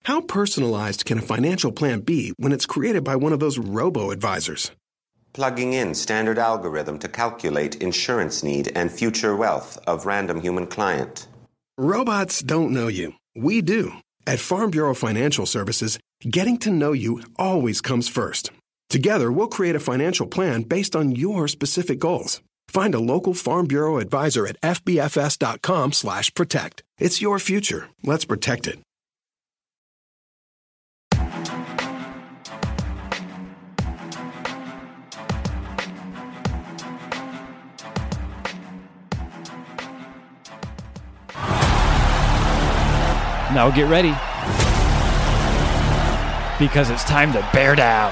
How personalized can a financial plan be when it's created by one of those robo-advisors? Plugging in standard algorithm to calculate insurance need and future wealth of random human client. Robots don't know you. We do. At Farm Bureau Financial Services, getting to know you always comes first. Together, we'll create a financial plan based on your specific goals. Find a local Farm Bureau advisor at fbfs.com/protect. It's your future. Let's protect it. Now get ready, because it's time to bear down.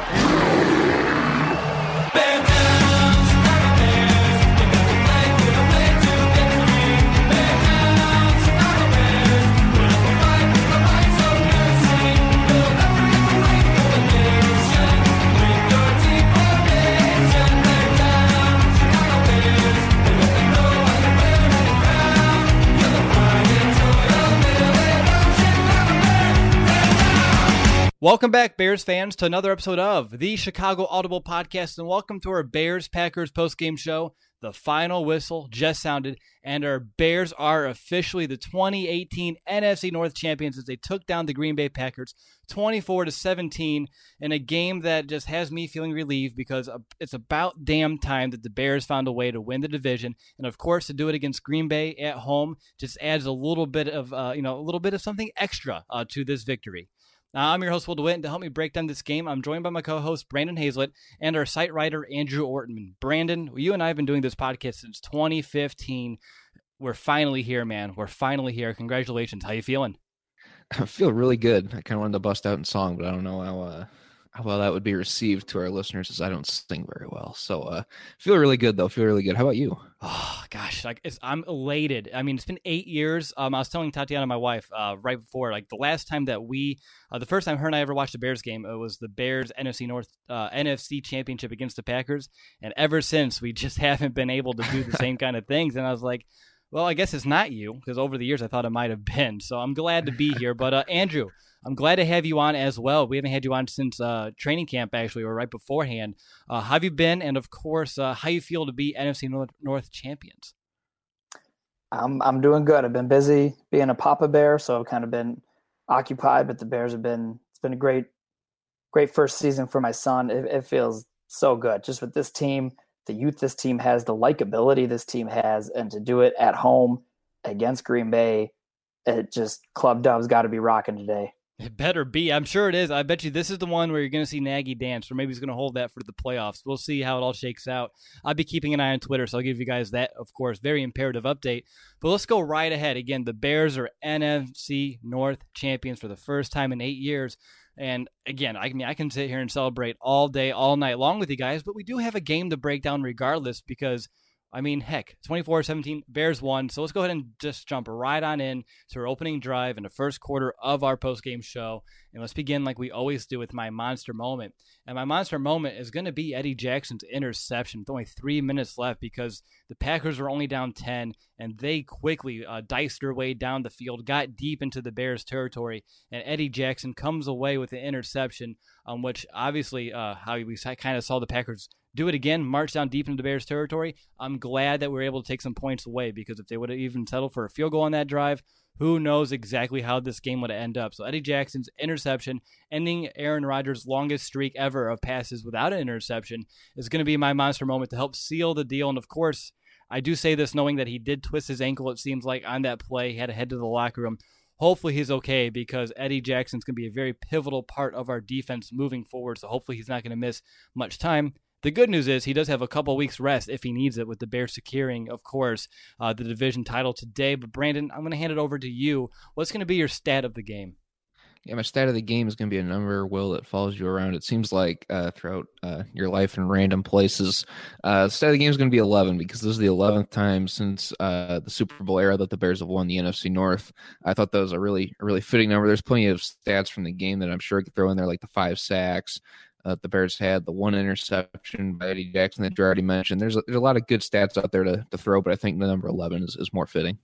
Welcome back, Bears fans, to another episode of the Chicago Audible Podcast, and welcome to our Bears-Packers postgame show. The final whistle just sounded, and our Bears are officially the 2018 NFC North champions as they took down the Green Bay Packers 24-17 in a game that just has me feeling relieved because it's about damn time that the Bears found a way to win the division, and of course to do it against Green Bay at home just adds a little bit of something extra to this victory. I'm your host, Will DeWitt, and to help me break down this game, I'm joined by my co-host, Brandon Hazlett, and our site writer, Andrew Ortman. Brandon, you and I have been doing this podcast since 2015. We're finally here, man. We're finally here. Congratulations. How you feeling? I feel really good. I kind of wanted to bust out in song, but I don't know how well that would be received to our listeners, as I don't sing very well. So feel really good, though. Feel really good. How about you? Oh, gosh. I'm elated. I mean, it's been 8 years. I was telling Tatiana, my wife, right before, the last time that the first time her and I ever watched a Bears game, it was the Bears NFC North NFC Championship against the Packers. And ever since, we just haven't been able to do the same kind of things. And I was like, well, I guess it's not you, because over the years I thought it might have been. So I'm glad to be here. But Andrew, I'm glad to have you on as well. We haven't had you on since training camp, actually, or right beforehand. How have you been? And, of course, how you feel to be NFC North champions? I'm doing good. I've been busy being a Papa Bear, so I've kind of been occupied, but the Bears it's been a great first season for my son. It feels so good. Just with this team, the youth this team has, the likability this team has, and to do it at home against Green Bay, Club Dove's got to be rocking today. It better be. I'm sure it is. I bet you this is the one where you're going to see Nagy dance, or maybe he's going to hold that for the playoffs. We'll see how it all shakes out. I'll be keeping an eye on Twitter, so I'll give you guys that, of course, very imperative update. But let's go right ahead. Again, the Bears are NFC North champions for the first time in 8 years. And again, I can sit here and celebrate all day, all night long with you guys, but we do have a game to break down regardless because, I mean, heck, 24-17, Bears won. So let's go ahead and just jump right on in to our opening drive in the first quarter of our postgame show. And let's begin like we always do with my monster moment. And my monster moment is going to be Eddie Jackson's interception with only 3 minutes left because the Packers were only down 10, and they quickly diced their way down the field, got deep into the Bears' territory, and Eddie Jackson comes away with the interception, which obviously how we kind of saw the Packers do it again, march down deep into the Bears' territory. I'm glad that we were able to take some points away because if they would have even settled for a field goal on that drive, who knows exactly how this game would end up. So Eddie Jackson's interception, ending Aaron Rodgers' longest streak ever of passes without an interception, is going to be my monster moment to help seal the deal. And of course, I do say this knowing that he did twist his ankle, it seems like, on that play. He had to head to the locker room. Hopefully he's okay because Eddie Jackson's going to be a very pivotal part of our defense moving forward. So hopefully he's not going to miss much time. The good news is he does have a couple weeks rest if he needs it, with the Bears securing, of course, the division title today. But Brandon, I'm going to hand it over to you. What's going to be your stat of the game? Yeah, my stat of the game is going to be a number, Will, that follows you around. It seems like throughout your life in random places. The stat of the game is going to be 11 because this is the 11th time since the Super Bowl era that the Bears have won the NFC North. I thought that was a really fitting number. There's plenty of stats from the game that I'm sure I could throw in there, like the 5 sacks the Bears had, the 1 interception by Eddie Jackson that you already mentioned. There's a lot of good stats out there to throw, but I think the number 11 is more fitting.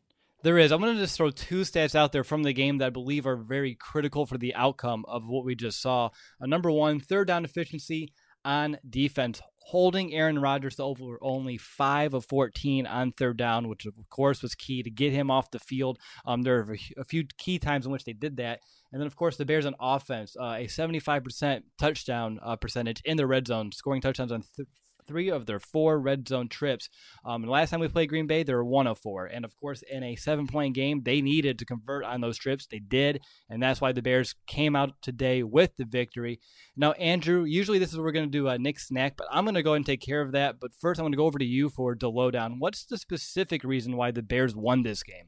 There is. I'm going to just throw two stats out there from the game that I believe are very critical for the outcome of what we just saw. Number one, third down efficiency on defense, holding Aaron Rodgers to over only 5 of 14 on third down, which of course was key to get him off the field. There are a few key times in which they did that. And then, of course, the Bears on offense, a 75% touchdown percentage in the red zone, scoring touchdowns on 3 of their 4 red zone trips. And last time we played Green Bay, they were 1 of 4. And of course, in a 7-point game, they needed to convert on those trips. They did. And that's why the Bears came out today with the victory. Now, Andrew, usually this is where we're going to do a Nick Snack, but I'm going to go ahead and take care of that. But first, I'm going to go over to you for the lowdown. What's the specific reason why the Bears won this game?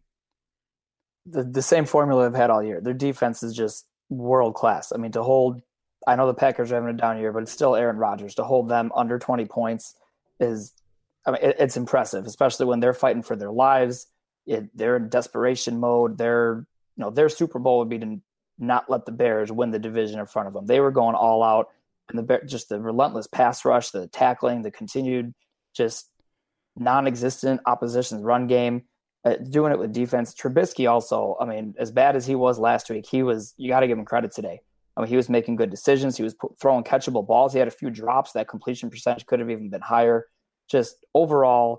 The same formula they've had all year. Their defense is just world class. I mean, to hold, I know the Packers are having a down year, but it's still Aaron Rodgers. To hold them under 20 points is, I mean, it's impressive, especially when they're fighting for their lives. They're in desperation mode. Their Super Bowl would be to not let the Bears win the division in front of them. They were going all out, and just the relentless pass rush, the tackling, the continued just non-existent opposition's run game. Doing it with defense. Trubisky also, I mean, as bad as he was last week, you got to give him credit today. I mean, he was making good decisions. He was throwing catchable balls. He had a few drops. That completion percentage could have even been higher. Just overall,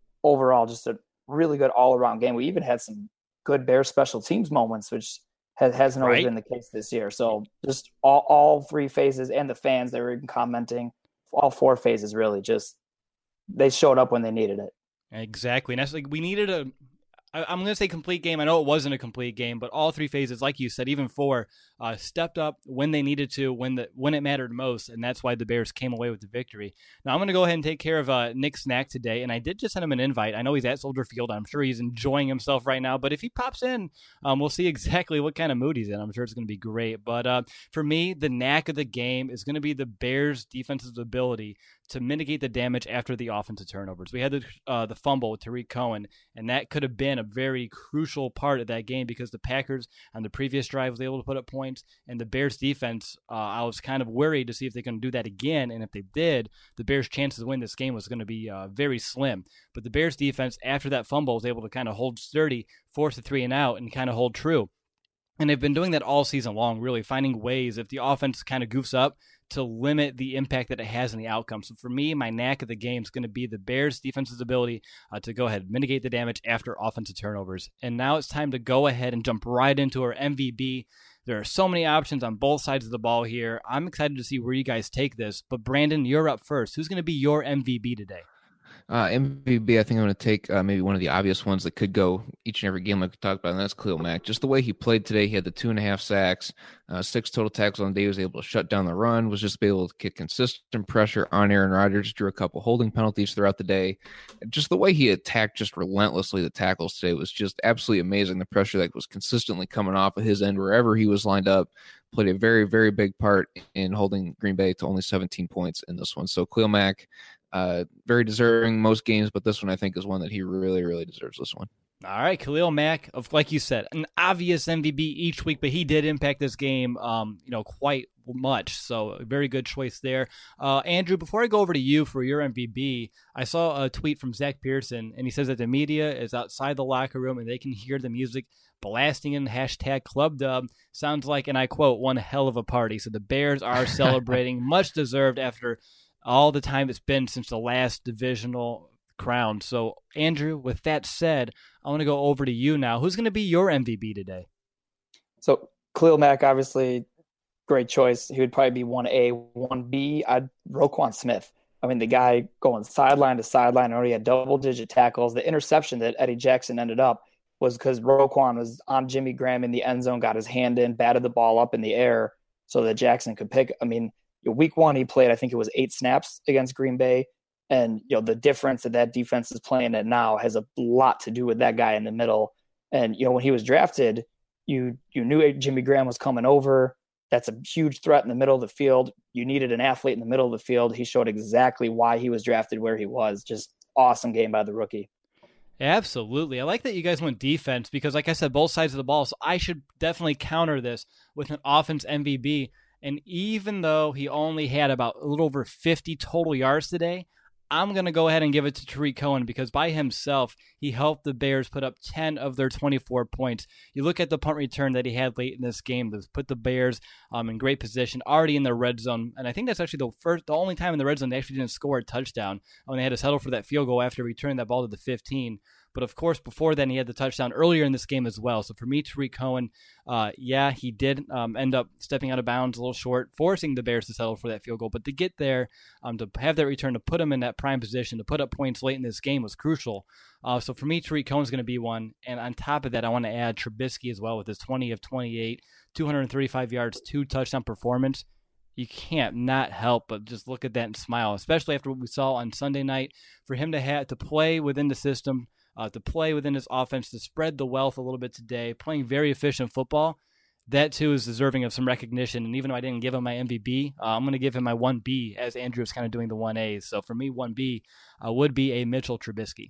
just a really good all-around game. We even had some good Bears special teams moments, which hasn't always been the case this year. So just all 3 phases, and the fans, they were even commenting, all 4 phases really, just they showed up when they needed it. Exactly. And that's like, we needed I'm going to say complete game. I know it wasn't a complete game, but all 3 phases, like you said, even 4, stepped up when they needed to, when it mattered most, and that's why the Bears came away with the victory. Now I'm going to go ahead and take care of Nick Snack today, and I did just send him an invite. I know he's at Soldier Field. I'm sure he's enjoying himself right now, but if he pops in, we'll see exactly what kind of mood he's in. I'm sure it's going to be great. But for me, the knack of the game is going to be the Bears' defensive ability to mitigate the damage after the offensive turnovers. We had the fumble with Tariq Cohen, and that could have been a very crucial part of that game because the Packers on the previous drive was able to put up points, and the Bears defense, I was kind of worried to see if they can do that again, and if they did, the Bears' chances to win this game was going to be very slim. But the Bears defense, after that fumble, was able to kind of hold sturdy, force a 3 and out, and kind of hold true. And they've been doing that all season long, really finding ways, if the offense kind of goofs up, to limit the impact that it has in the outcome. So for me, my knack of the game is going to be the Bears' defense's ability to go ahead and mitigate the damage after offensive turnovers. And now it's time to go ahead and jump right into our MVB. There are so many options on both sides of the ball here. I'm excited to see where you guys take this. But Brandon, you're up first. Who's going to be your MVP today? MVP, I think I'm going to take maybe one of the obvious ones that could go each and every game like we talked about, and that's Khalil Mack. Just the way he played today, he had the 2.5 sacks, 6 total tackles on the day. He was able to shut down the run, was just able to get consistent pressure on Aaron Rodgers, drew a couple holding penalties throughout the day. Just the way he attacked just relentlessly the tackles today was just absolutely amazing. The pressure that was consistently coming off of his end wherever he was lined up played a very, very big part in holding Green Bay to only 17 points in this one. So Khalil Mack, very deserving most games, but this one I think is one that he really, really deserves this one. All right, Khalil Mack, like you said, an obvious MVP each week, but he did impact this game, quite much. So a very good choice there. Andrew, before I go over to you for your MVP, I saw a tweet from Zach Pearson, and he says that the media is outside the locker room and they can hear the music blasting in #ClubDub. Sounds like, and I quote, one hell of a party. So the Bears are celebrating, much deserved after all the time it's been since the last divisional crown. So, Andrew, with that said, I want to go over to you now. Who's going to be your MVP today? So, Khalil Mack, obviously, great choice. He would probably be 1A. 1B, Roquan Smith. I mean, the guy going sideline to sideline, already had double-digit tackles. The interception that Eddie Jackson ended up was because Roquan was on Jimmy Graham in the end zone, got his hand in, batted the ball up in the air so that Jackson could pick. I mean, week 1, he played, I think it was 8 snaps against Green Bay. And, the difference that defense is playing at now has a lot to do with that guy in the middle. And, when he was drafted, you knew Jimmy Graham was coming over. That's a huge threat in the middle of the field. You needed an athlete in the middle of the field. He showed exactly why he was drafted where he was. Just awesome game by the rookie. Absolutely. I like that you guys went defense because, like I said, both sides of the ball. So I should definitely counter this with an offense MVP. And even though he only had about a little over 50 total yards today, I'm going to go ahead and give it to Tarik Cohen because by himself, he helped the Bears put up 10 of their 24 points. You look at the punt return that he had late in this game that put the Bears in great position, already in the red zone. And I think that's actually the only time in the red zone they actually didn't score a touchdown when they had to settle for that field goal after returning that ball to the 15. But of course, before then, he had the touchdown earlier in this game as well. So for me, Tarik Cohen, he did end up stepping out of bounds a little short, forcing the Bears to settle for that field goal. But to get there, to have that return, to put him in that prime position, to put up points late in this game was crucial. So for me, Tarik Cohen's going to be one. And on top of that, I want to add Trubisky as well with his 20 of 28, 235 yards, 2 touchdown performance. You can't not help but just look at that and smile, especially after what we saw on Sunday night. For him to have to play within the system, to play within his offense, to spread the wealth a little bit today, playing very efficient football, that too is deserving of some recognition. And even though I didn't give him my MVP, I'm going to give him my 1B as Andrew is kind of doing the 1A. So for me, 1B would be a Mitchell Trubisky.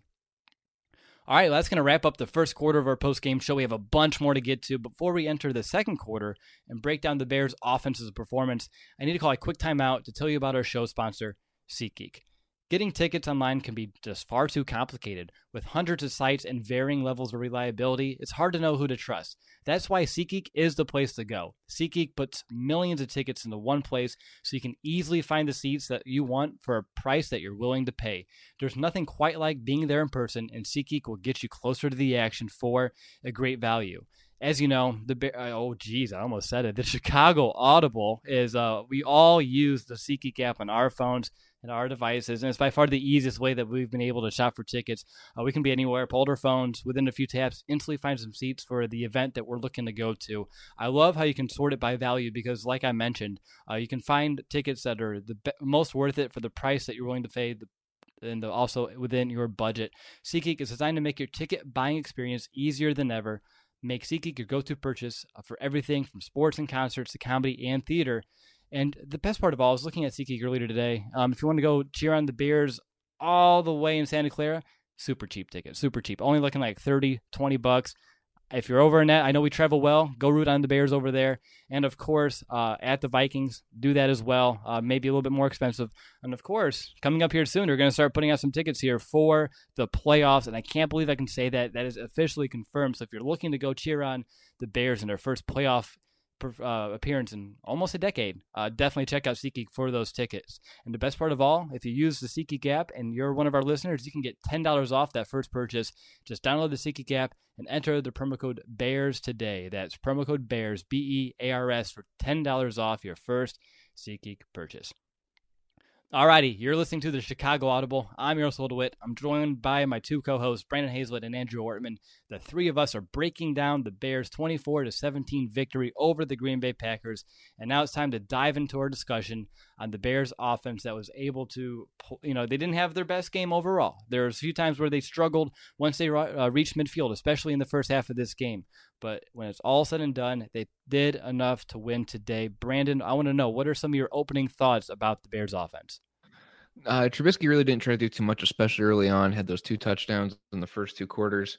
All right, that's going to wrap up the first quarter of our post-game show. We have a bunch more to get to. Before we enter the second quarter and break down the Bears' offense's performance, I need to call a quick timeout to tell you about our show sponsor, SeatGeek. Getting tickets online can be just far too complicated. With hundreds of sites and varying levels of reliability, it's hard to know who to trust. That's why SeatGeek is the place to go. SeatGeek puts millions of tickets into one place so you can easily find the seats that you want for a price that you're willing to pay. There's nothing quite like being there in person, and SeatGeek will get you closer to the action for a great value. As you know, I almost said it. The Chicago Audible is, we all use the SeatGeek app on our phones and our devices, and it's by far the easiest way that we've been able to shop for tickets. We can be anywhere, pull our phones, within a few taps, instantly find some seats for the event that we're looking to go to. I love how you can sort it by value because, like I mentioned, you can find tickets that are the most worth it for the price that you're willing to pay, and also within your budget. SeatGeek is designed to make your ticket buying experience easier than ever. Make SeatGeek your go-to purchase for everything from sports and concerts to comedy and theater. And the best part of all, I was looking at SeatGeek earlier today. If you want to go cheer on the Bears all the way in Santa Clara, super cheap ticket, super cheap. Only looking like $30-$20. If you're over in that, I know we travel well. Go root on the Bears over there. And of course, at the Vikings, do that as well. Maybe a little bit more expensive. And of course, coming up here soon, we're going to start putting out some tickets here for the playoffs. And I can't believe I can say that. That is officially confirmed. So if you're looking to go cheer on the Bears in their first playoff appearance in almost a decade, definitely check out SeatGeek for those tickets. And the best part of all, if you use the SeatGeek app and you're one of our listeners, you can get $10 off that first purchase. Just download the SeatGeek app and enter the promo code BEARS today. That's promo code BEARS, BEARS, for $10 off your first SeatGeek purchase. Alrighty, you're listening to the Chicago Audible. I'm Yaroslav DeWitt. I'm joined by my two co-hosts, Brandon Hazlett and Andrew Ortman. The three of us are breaking down the Bears' 24-17 victory over the Green Bay Packers. And now it's time to dive into our discussion on the Bears' offense that was able to, they didn't have their best game overall. There was a few times where they struggled once they reached midfield, especially in the first half of this game. But when it's all said and done, they did enough to win today. Brandon, I want to know, what are some of your opening thoughts about the Bears' offense? Trubisky really didn't try to do too much, especially early on. Had those 2 touchdowns in the first 2 quarters.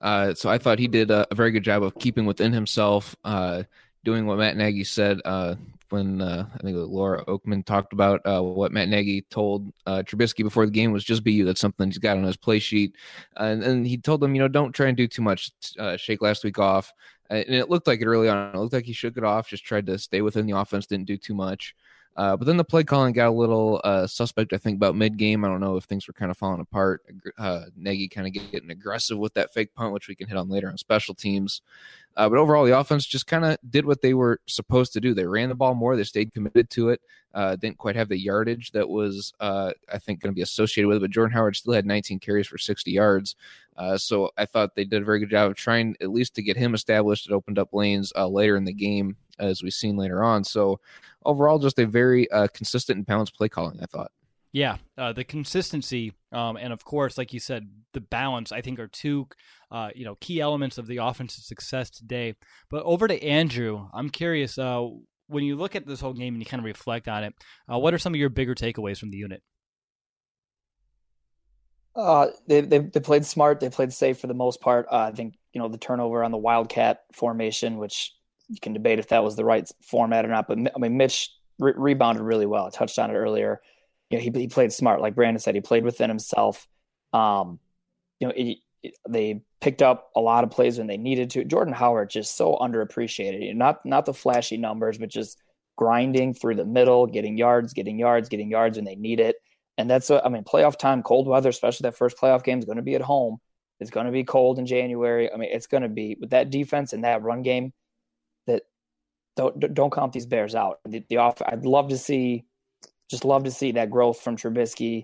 So I thought he did a very good job of keeping within himself, doing what Matt Nagy said when I think Laura Oakman talked about what Matt Nagy told Trubisky before the game was just be you. That's something he's got on his play sheet. And he told him, don't try and do too much. Shake last week off. And it looked like it early on. It looked like he shook it off, just tried to stay within the offense, didn't do too much. But then the play calling got a little suspect, I think, about mid-game. I don't know if things were kind of falling apart. Nagy kind of getting aggressive with that fake punt, which we can hit on later on special teams. But overall, the offense just kind of did what they were supposed to do. They ran the ball more. They stayed committed to it. Didn't quite have the yardage that was, I think, going to be associated with it. But Jordan Howard still had 19 carries for 60 yards. So I thought they did a very good job of trying at least to get him established. It opened up lanes later in the game, as we've seen later on. So overall, just a very consistent and balanced play calling, I thought. Yeah, the consistency and, of course, like you said, the balance, I think, are two key elements of the offensive success today. But over to Andrew, I'm curious, when you look at this whole game and you kind of reflect on it, what are some of your bigger takeaways from the unit? They played smart. They played safe for the most part. I think, the turnover on the Wildcat formation, which you can debate if that was the right format or not. But, Mitch rebounded really well. I touched on it earlier. he played smart, like Brandon said. He played within himself. They picked up a lot of plays when they needed to. Jordan Howard just so underappreciated. Not the flashy numbers, but just grinding through the middle, getting yards when they need it. And that's playoff time, cold weather, especially that first playoff game is going to be at home. It's going to be cold in January. It's going to be with that defense and that run game. That don't count these Bears out. I'd love to see that growth from Trubisky.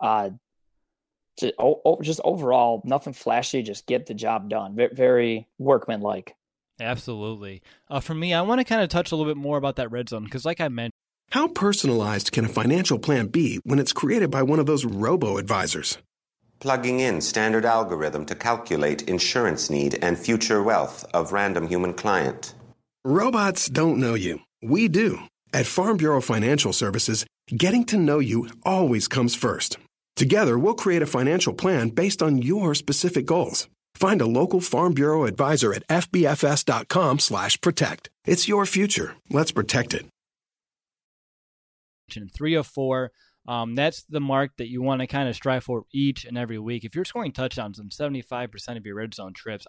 Just overall, nothing flashy. Just get the job done. Very workmanlike. Absolutely. For me, I want to kind of touch a little bit more about that red zone because, like I mentioned, How personalized can a financial plan be when it's created by one of those robo-advisors? Plugging in standard algorithm to calculate insurance need and future wealth of random human client. Robots don't know you. We do. At Farm Bureau Financial Services, getting to know you always comes first. Together, we'll create a financial plan based on your specific goals. Find a local Farm Bureau advisor at fbfs.com/protect. It's your future. Let's protect it. 304. That's the mark that you want to kind of strive for each and every week. If you're scoring touchdowns in 75% of your red zone trips,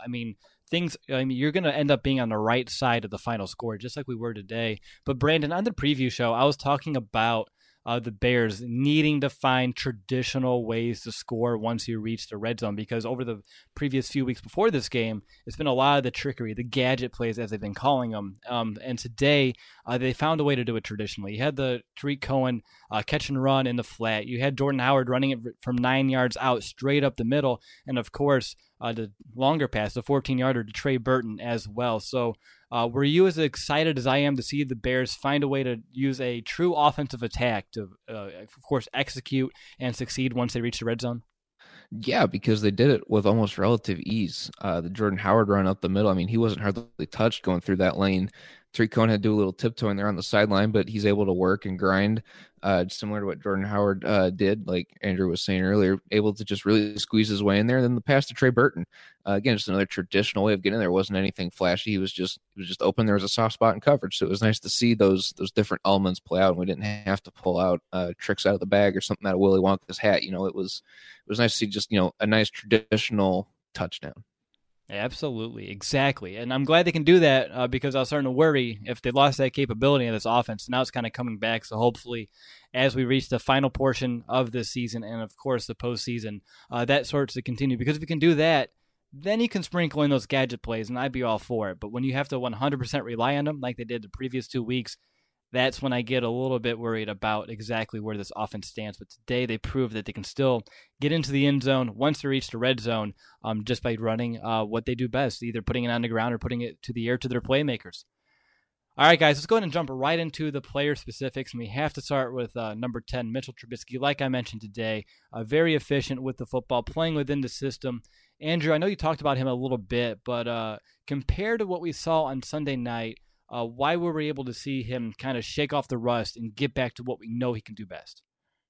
you're going to end up being on the right side of the final score, just like we were today. But Brandon, on the preview show, I was talking about the Bears needing to find traditional ways to score once you reach the red zone, because over the previous few weeks before this game, it's been a lot of the trickery, the gadget plays, as they've been calling them. And today, they found a way to do it traditionally. You had the Tariq Cohen catch and run in the flat. You had Jordan Howard running it from 9 yards out straight up the middle. And of course, the longer pass, the 14-yarder to Trey Burton as well. So were you as excited as I am to see the Bears find a way to use a true offensive attack to, of course, execute and succeed once they reach the red zone? Yeah, because they did it with almost relative ease. The Jordan Howard run up the middle, he wasn't hardly touched going through that lane. Tariq Cohen had to do a little tiptoeing there on the sideline, but he's able to work and grind, similar to what Jordan Howard did, like Andrew was saying earlier, able to just really squeeze his way in there. And then the pass to Trey Burton, again, just another traditional way of getting there. It wasn't anything flashy. He was just open. There was a soft spot in coverage, so it was nice to see those different elements play out. And we didn't have to pull out tricks out of the bag or something out of Willy Wonka's hat. It was nice to see just a nice traditional touchdown. Absolutely, exactly. And I'm glad they can do that because I was starting to worry if they lost that capability in this offense. Now it's kind of coming back. So hopefully as we reach the final portion of this season and, of course, the postseason, that starts to continue. Because if you can do that, then you can sprinkle in those gadget plays, and I'd be all for it. But when you have to 100% rely on them like they did the previous 2 weeks, that's when I get a little bit worried about exactly where this offense stands. But today they proved that they can still get into the end zone once they reach the red zone just by running what they do best, either putting it on the ground or putting it to the air to their playmakers. All right, guys, let's go ahead and jump right into the player specifics. And we have to start with number 10, Mitchell Trubisky. Like I mentioned today, very efficient with the football, playing within the system. Andrew, I know you talked about him a little bit, but compared to what we saw on Sunday night, why were we able to see him kind of shake off the rust and get back to what we know he can do best?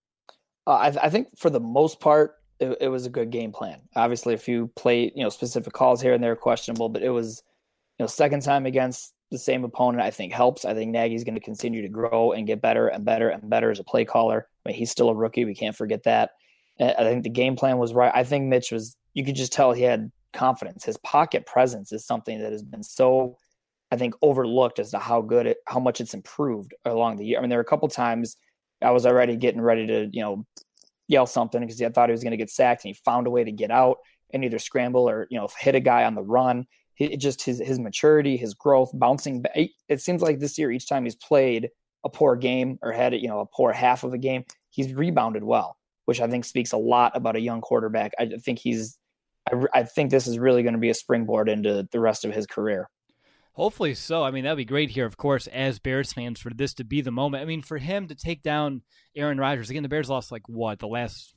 I think for the most part, it was a good game plan. Obviously, a few specific calls here and there questionable, but it was, second time against the same opponent, I think helps. I think Nagy's going to continue to grow and get better and better and better as a play caller. He's still a rookie. We can't forget that. I think the game plan was right. I think Mitch you could just tell he had confidence. His pocket presence is something that has been so, I think, overlooked as to how much it's improved along the year. There were a couple times I was already getting ready to, yell something because I thought he was going to get sacked, and he found a way to get out and either scramble or, hit a guy on the run. His maturity, his growth, bouncing back. It seems like this year, each time he's played a poor game or had a poor half of a game, he's rebounded well, which I think speaks a lot about a young quarterback. I think this is really going to be a springboard into the rest of his career. Hopefully so. that'd be great here, of course, as Bears fans, for this to be the moment. For him to take down Aaron Rodgers, again, the Bears lost the last,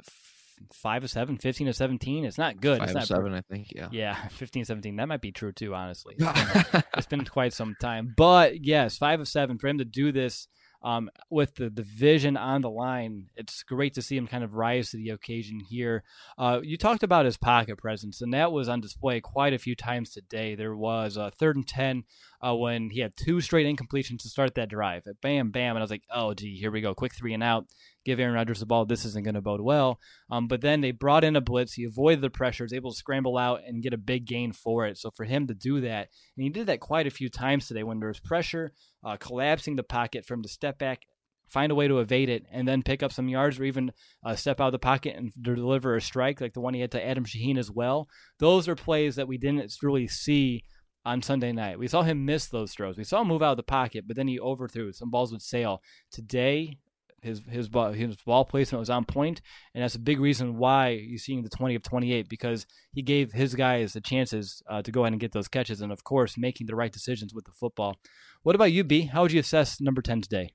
5-7, 15-17? It's not good. 5-7, I think, yeah. Yeah, 15-17. That might be true too, honestly. It's been quite some time. But yes, 5-7, for him to do this with the division on the line, it's great to see him kind of rise to the occasion here. You talked about his pocket presence, and that was on display quite a few times today. There was a 3rd and 10 when he had 2 straight incompletions to start that drive. Bam, bam. And I was like, oh, gee, here we go. Quick 3 and out. Give Aaron Rodgers the ball. This isn't going to bode well. But then they brought in a blitz. He avoided the pressure, was able to scramble out and get a big gain for it. So for him to do that, and he did that quite a few times today when there was pressure, collapsing the pocket for him to step back, find a way to evade it, and then pick up some yards or even step out of the pocket and deliver a strike like the one he had to Adam Shaheen as well. Those are plays that we didn't really see on Sunday night. We saw him miss those throws. We saw him move out of the pocket, but then he overthrew. Some balls would sail. Today, his ball placement was on point, and that's a big reason why you're seeing the 20 of 28, because he gave his guys the chances to go ahead and get those catches, and of course, making the right decisions with the football. What about you, B? How would you assess number 10 today?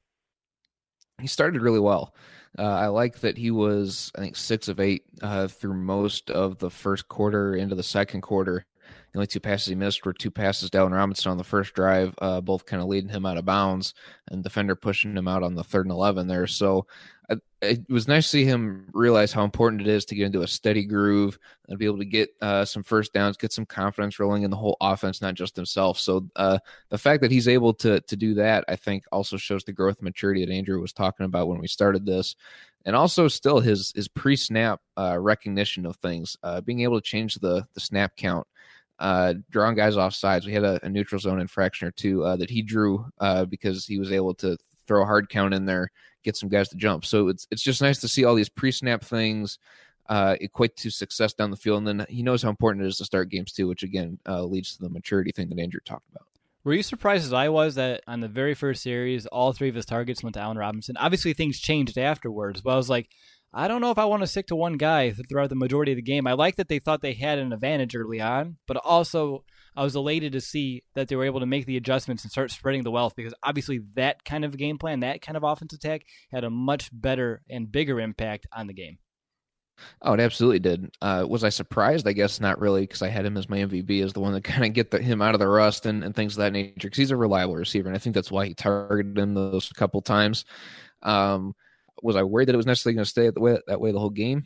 He started really well. I like that he was, I think, 6 of 8 through most of the first quarter into the second quarter. The only 2 passes he missed were 2 passes to Allen Robinson on the first drive, both kind of leading him out of bounds, and defender pushing him out on the 3rd and 11 there. So it was nice to see him realize how important it is to get into a steady groove and be able to get some first downs, get some confidence rolling in the whole offense, not just himself. So the fact that he's able to do that, I think, also shows the growth and maturity that Andrew was talking about when we started this. And also still his pre-snap recognition of things, being able to change the snap count, drawing guys off sides. We had a neutral zone infraction or 2 that he drew because he was able to throw a hard count in there, get some guys to jump. So it's just nice to see all these pre-snap things equate to success down the field. And then he knows how important it is to start games too, which again leads to the maturity thing that Andrew talked about. Were you surprised as I was that on the very first series, all 3 of his targets went to Allen Robinson? Obviously, things changed afterwards, but I was like, I don't know if I want to stick to one guy throughout the majority of the game. I like that they thought they had an advantage early on, but also I was elated to see that they were able to make the adjustments and start spreading the wealth, because obviously that kind of game plan, that kind of offense attack had a much better and bigger impact on the game. Oh, it absolutely did. Was I surprised? I guess not really, because I had him as my MVP, as the one that kind of get him out of the rust and things of that nature, because he's a reliable receiver, and I think that's why he targeted him those couple times. Was I worried that it was necessarily going to stay that way the whole game?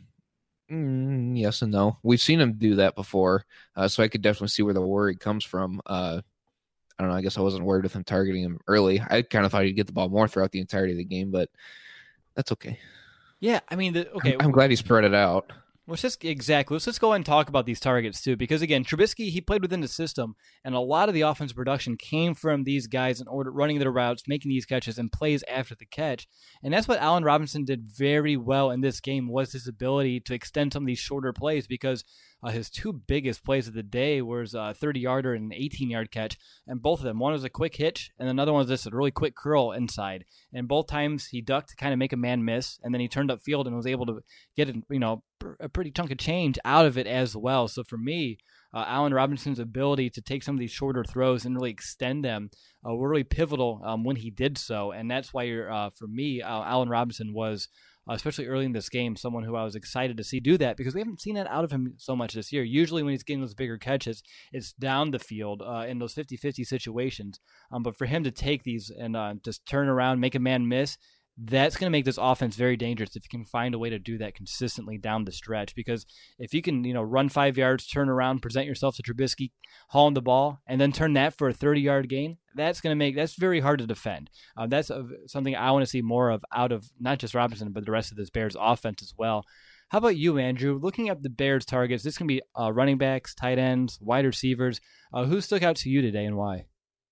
Yes and no. We've seen him do that before, so I could definitely see where the worry comes from. I don't know. I guess I wasn't worried with him targeting him early. I kind of thought he'd get the ball more throughout the entirety of the game, but that's okay. Yeah, I mean, I'm glad he spread it out. Let's just go ahead and talk about these targets too, because again, Trubisky, he played within the system, and a lot of the offensive production came from these guys in order running their routes, making these catches and plays after the catch, and that's what Allen Robinson did very well in this game, was his ability to extend some of these shorter plays, because his 2 biggest plays of the day was a 30-yarder and an 18-yard catch, and both of them, one was a quick hitch, and another one was just a really quick curl inside, and both times he ducked to kind of make a man miss, and then he turned upfield and was able to get a pretty chunk of change out of it as well. So for me, Allen Robinson's ability to take some of these shorter throws and really extend them were really pivotal when he did so, and that's why for me, Allen Robinson was, especially early in this game, someone who I was excited to see do that, because we haven't seen that out of him so much this year. Usually when he's getting those bigger catches, it's down the field in those 50-50 situations. But for him to take these and just turn around, make a man miss, that's going to make this offense very dangerous if you can find a way to do that consistently down the stretch. Because if you can, run 5 yards, turn around, present yourself to Trubisky, haul in the ball, and then turn that for a 30-yard gain, that's very hard to defend. That's something I want to see more of out of not just Robinson, but the rest of this Bears offense as well. How about you, Andrew? Looking at the Bears targets, this can be running backs, tight ends, wide receivers. Who stuck out to you today and why?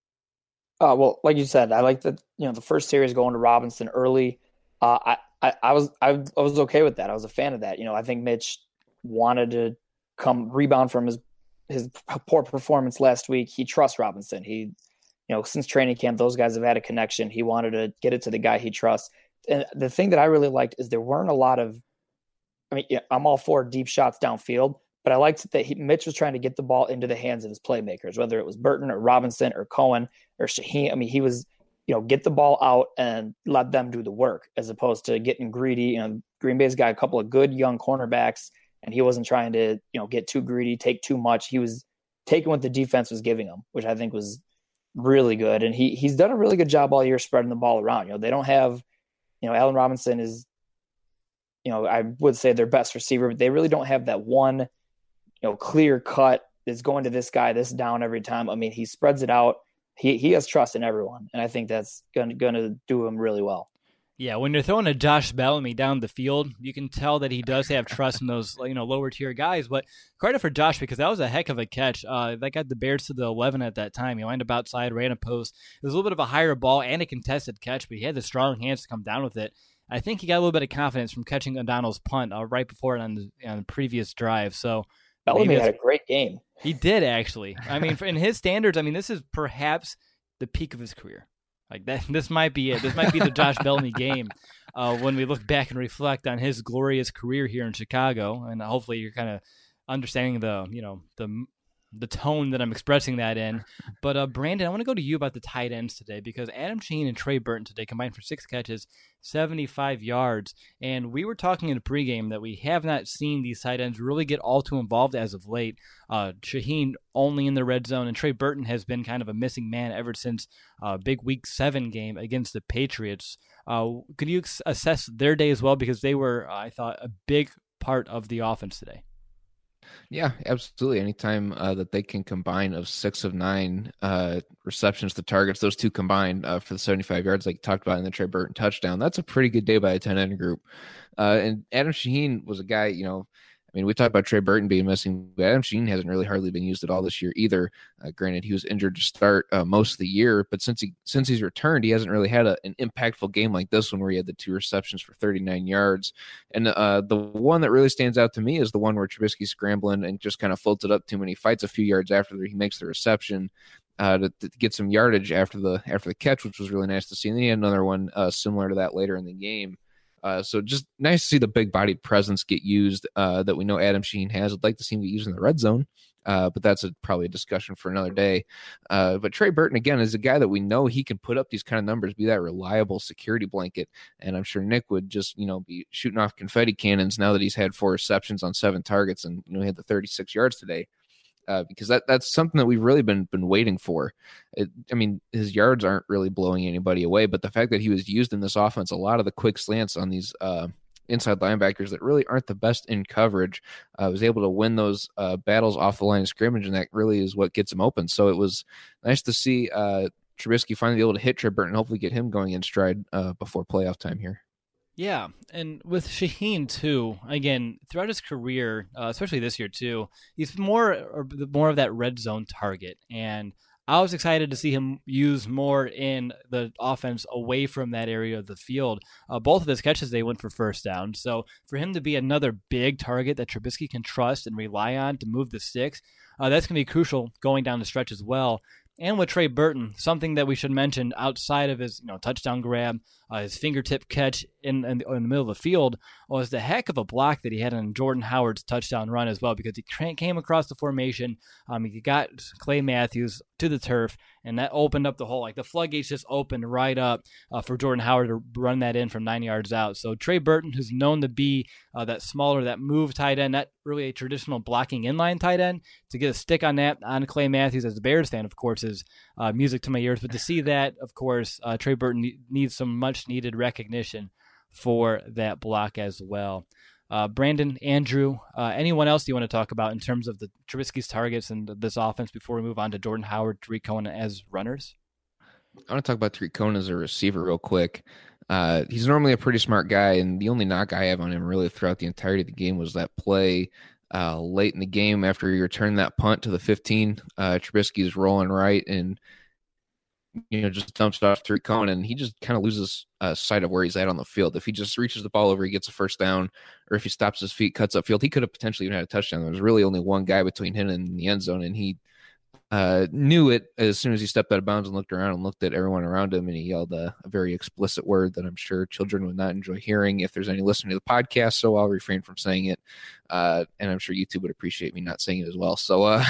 Well, like you said, I like that. The first series going to Robinson early. I was okay with that. I was a fan of that. I think Mitch wanted to come rebound from his poor performance last week. He trusts Robinson. He, since training camp, those guys have had a connection. He wanted to get it to the guy he trusts. And the thing that I really liked is there weren't a lot of. I'm all for deep shots downfield, but I liked that Mitch was trying to get the ball into the hands of his playmakers, whether it was Burton or Robinson or Cohen or Shaheen. He was, get the ball out and let them do the work, as opposed to getting greedy. Green Bay's got a couple of good young cornerbacks, and he wasn't trying to, get too greedy, take too much. He was taking what the defense was giving him, which I think was really good. And he's done a really good job all year spreading the ball around. They don't have, Allen Robinson is, I would say their best receiver, but they really don't have that one, clear cut is going to this guy, this down every time. He spreads it out. he has trust in everyone, and I think that's going to do him really well. Yeah, when you're throwing a Josh Bellamy down the field, you can tell that he does have trust in those lower tier guys. But credit for Josh, because that was a heck of a catch. That got the Bears to the 11 at that time. He lined up outside, ran a post. It was a little bit of a higher ball and a contested catch, but he had the strong hands to come down with it. I think he got a little bit of confidence from catching O'Donnell's punt right before it on the previous drive. So Bellamy had a great game. He did, actually. I mean, in his standards, this is perhaps the peak of his career. Like that, this might be it. This might be the Josh Bellamy game when we look back and reflect on his glorious career here in Chicago. And hopefully, you're kind of understanding the tone that I'm expressing that in. But Brandon, I want to go to you about the tight ends today, because Adam Shaheen and Trey Burton today combined for 6 catches, 75 yards. And we were talking in the pregame that we have not seen these tight ends really get all too involved as of late. Shaheen only in the red zone, and Trey Burton has been kind of a missing man ever since big Week 7 game against the Patriots. Could you assess their day as well? Because they were, I thought, a big part of the offense today. Yeah, absolutely. Anytime that they can combine of 6 of 9 receptions to targets, those two combined for the 75 yards, like you talked about in the Trey Burton touchdown, that's a pretty good day by a 10-end group. And Adam Shaheen was a guy, we talked about Trey Burton being missing, but Adam Shaheen hasn't really hardly been used at all this year either. Granted, he was injured to start most of the year, but since he's returned, he hasn't really had an impactful game like this one where he had the 2 receptions for 39 yards. And the one that really stands out to me is the one where Trubisky's scrambling and just kind of floats it up to him, and he fights a few yards after he makes the reception to get some yardage after the catch, which was really nice to see. And then he had another one similar to that later in the game. So just nice to see the big-bodied presence get used that we know Adam Shaheen has. I'd like to see him get used in the red zone, but that's probably a discussion for another day. But Trey Burton, again, is a guy that we know he can put up these kind of numbers, be that reliable security blanket, and I'm sure Nick would just, be shooting off confetti cannons now that he's had 4 receptions on 7 targets and, he had the 36 yards today. Because that's something that we've really been waiting for. His yards aren't really blowing anybody away, but the fact that he was used in this offense, a lot of the quick slants on these inside linebackers that really aren't the best in coverage, was able to win those battles off the line of scrimmage, and that really is what gets him open. So it was nice to see Trubisky finally be able to hit Trey Burton and hopefully get him going in stride before playoff time here. Yeah, and with Shaheen too, again, throughout his career, especially this year too, he's more of that red zone target, and I was excited to see him use more in the offense away from that area of the field. Both of his catches, they went for first down, so for him to be another big target that Trubisky can trust and rely on to move the sticks, that's going to be crucial going down the stretch as well. And with Trey Burton, something that we should mention outside of his touchdown grab, his fingertip catch in the middle of the field, was the heck of a block that he had on Jordan Howard's touchdown run as well, because he came across the formation. He got Clay Matthews to the turf, and that opened up the hole. Like the floodgates just opened right up for Jordan Howard to run that in from 9 yards out. So Trey Burton, who's known to be that smaller, that move tight end, not really a traditional blocking inline tight end, to get a stick on that on Clay Matthews as a Bears fan, of course, is music to my ears. But to see that, of course, Trey Burton needs some much needed recognition for that block as well. Brandon, Andrew, anyone else you want to talk about in terms of the Trubisky's targets and this offense before we move on to Jordan Howard, Tariq Cohen as runners? I want to talk about Tariq Cohen as a receiver real quick. He's normally a pretty smart guy, and the only knock I have on him really throughout the entirety of the game was that play late in the game after he returned that punt to the 15. Trubisky's rolling right and just dumps it off Tariq Cohen, and he just kind of loses sight of where he's at on the field. If he just reaches the ball over, he gets a first down, or if he stops his feet, cuts upfield, he could have potentially even had a touchdown. There was really only one guy between him and the end zone, and he knew it as soon as he stepped out of bounds and looked around and looked at everyone around him, and he yelled a very explicit word that I'm sure children would not enjoy hearing if there's any listening to the podcast, so I'll refrain from saying it, and I'm sure YouTube would appreciate me not saying it as well. So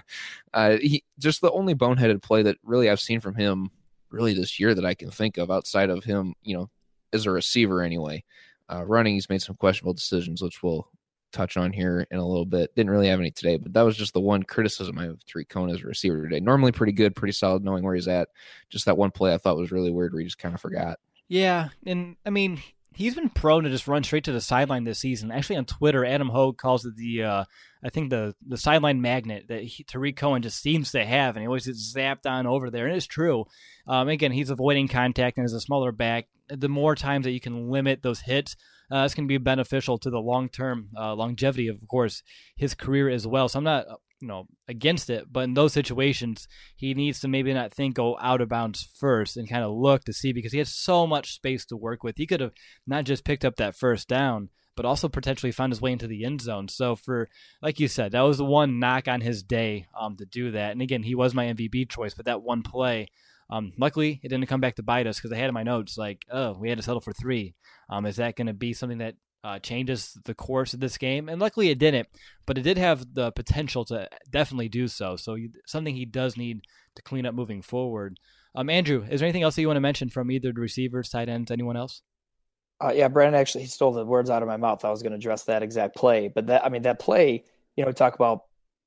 he just the only boneheaded play that really I've seen from him really this year that I can think of outside of him, as a receiver anyway. Running, he's made some questionable decisions, which we'll touch on here in a little bit. Didn't really have any today, but that was just the one criticism I have of Tariq Cohen as a receiver today. Normally pretty good, pretty solid, knowing where he's at. Just that one play I thought was really weird where he just kind of forgot. Yeah, and he's been prone to just run straight to the sideline this season. Actually, on Twitter, Adam Hogue calls it the sideline magnet that Tarik Cohen just seems to have, and he always gets zapped on over there. And it's true. Again, he's avoiding contact, and as a smaller back, the more times that you can limit those hits, it's going to be beneficial to the long-term longevity of course, his career as well. So I'm not against it, but in those situations, he needs to maybe not go out of bounds first and kind of look to see, because he has so much space to work with. He could have not just picked up that first down, but also potentially found his way into the end zone. So like you said, that was the one knock on his day to do that. And again, he was my MVP choice, but that one play, luckily it didn't come back to bite us, because I had in my notes we had to settle for 3. Is that going to be something that changes the course of this game? And luckily it didn't, but it did have the potential to definitely do so. So something he does need to clean up moving forward. Andrew, is there anything else that you want to mention from either the receivers, tight ends, anyone else? Yeah, Brandon actually, he stole the words out of my mouth. I was going to address that exact play, but that play, we talk about,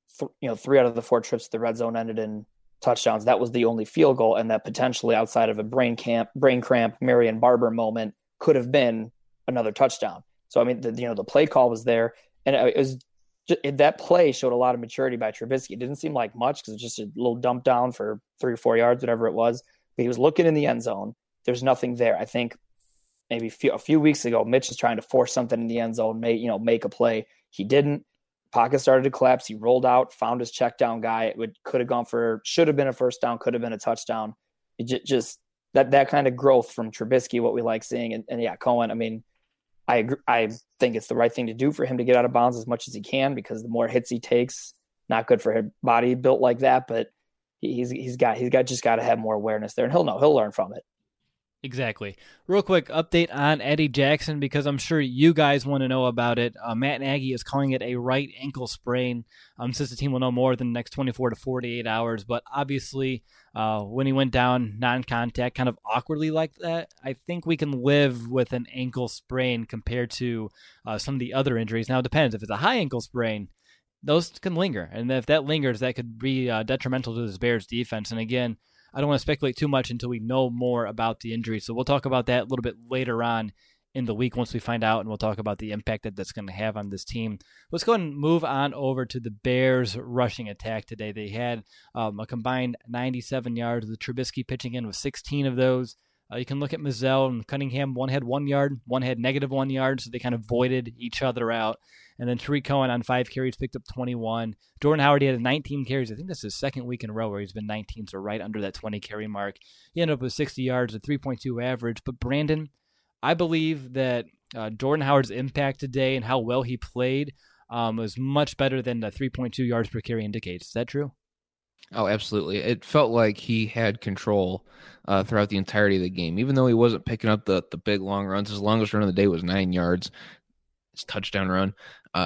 3 out of the 4 trips to the red zone ended in touchdowns. That was the only field goal, and that potentially, outside of a brain cramp, Marion Barber moment, could have been another touchdown. So the play call was there, and it was that play showed a lot of maturity by Trubisky. It didn't seem like much, because it's just a little dump down for 3 or 4 yards, whatever it was. But he was looking in the end zone. There's nothing there. I think maybe a few weeks ago, Mitch was trying to force something in the end zone, make a play. He didn't. Pocket started to collapse. He rolled out, found his check down guy. Should have been a first down, could have been a touchdown. It just that kind of growth from Trubisky, what we like seeing. And yeah, Cohen, I think it's the right thing to do for him to get out of bounds as much as he can, because the more hits he takes, not good for his body built like that, but he's just got to have more awareness there, and he'll learn from it. Exactly. Real quick update on Eddie Jackson, because I'm sure you guys want to know about it. Matt Nagy is calling it a right ankle sprain. Since the team will know more within the next 24 to 48 hours. But obviously, when he went down non-contact, kind of awkwardly like that, I think we can live with an ankle sprain compared to some of the other injuries. Now, it depends. If it's a high ankle sprain, those can linger. And if that lingers, that could be detrimental to this Bears defense. And again, I don't want to speculate too much until we know more about the injury. So we'll talk about that a little bit later on in the week once we find out, and we'll talk about the impact that's going to have on this team. Let's go ahead and move on over to the Bears' rushing attack today. They had a combined 97 yards. The Trubisky pitching in with 16 of those. You can look at Mazzell and Cunningham. One had 1 yard, one had -1 yard, so they kind of voided each other out. And then Tarik Cohen on 5 carries picked up 21. Jordan Howard, he had 19 carries. I think this is his second week in a row where he's been 19, so right under that 20 carry mark. He ended up with 60 yards, a 3.2 average. But Brandon, I believe that Jordan Howard's impact today and how well he played was much better than the 3.2 yards per carry indicates. Is that true? Oh, absolutely. It felt like he had control throughout the entirety of the game, even though he wasn't picking up the big long runs. His longest run of the day was 9 yards, his touchdown run.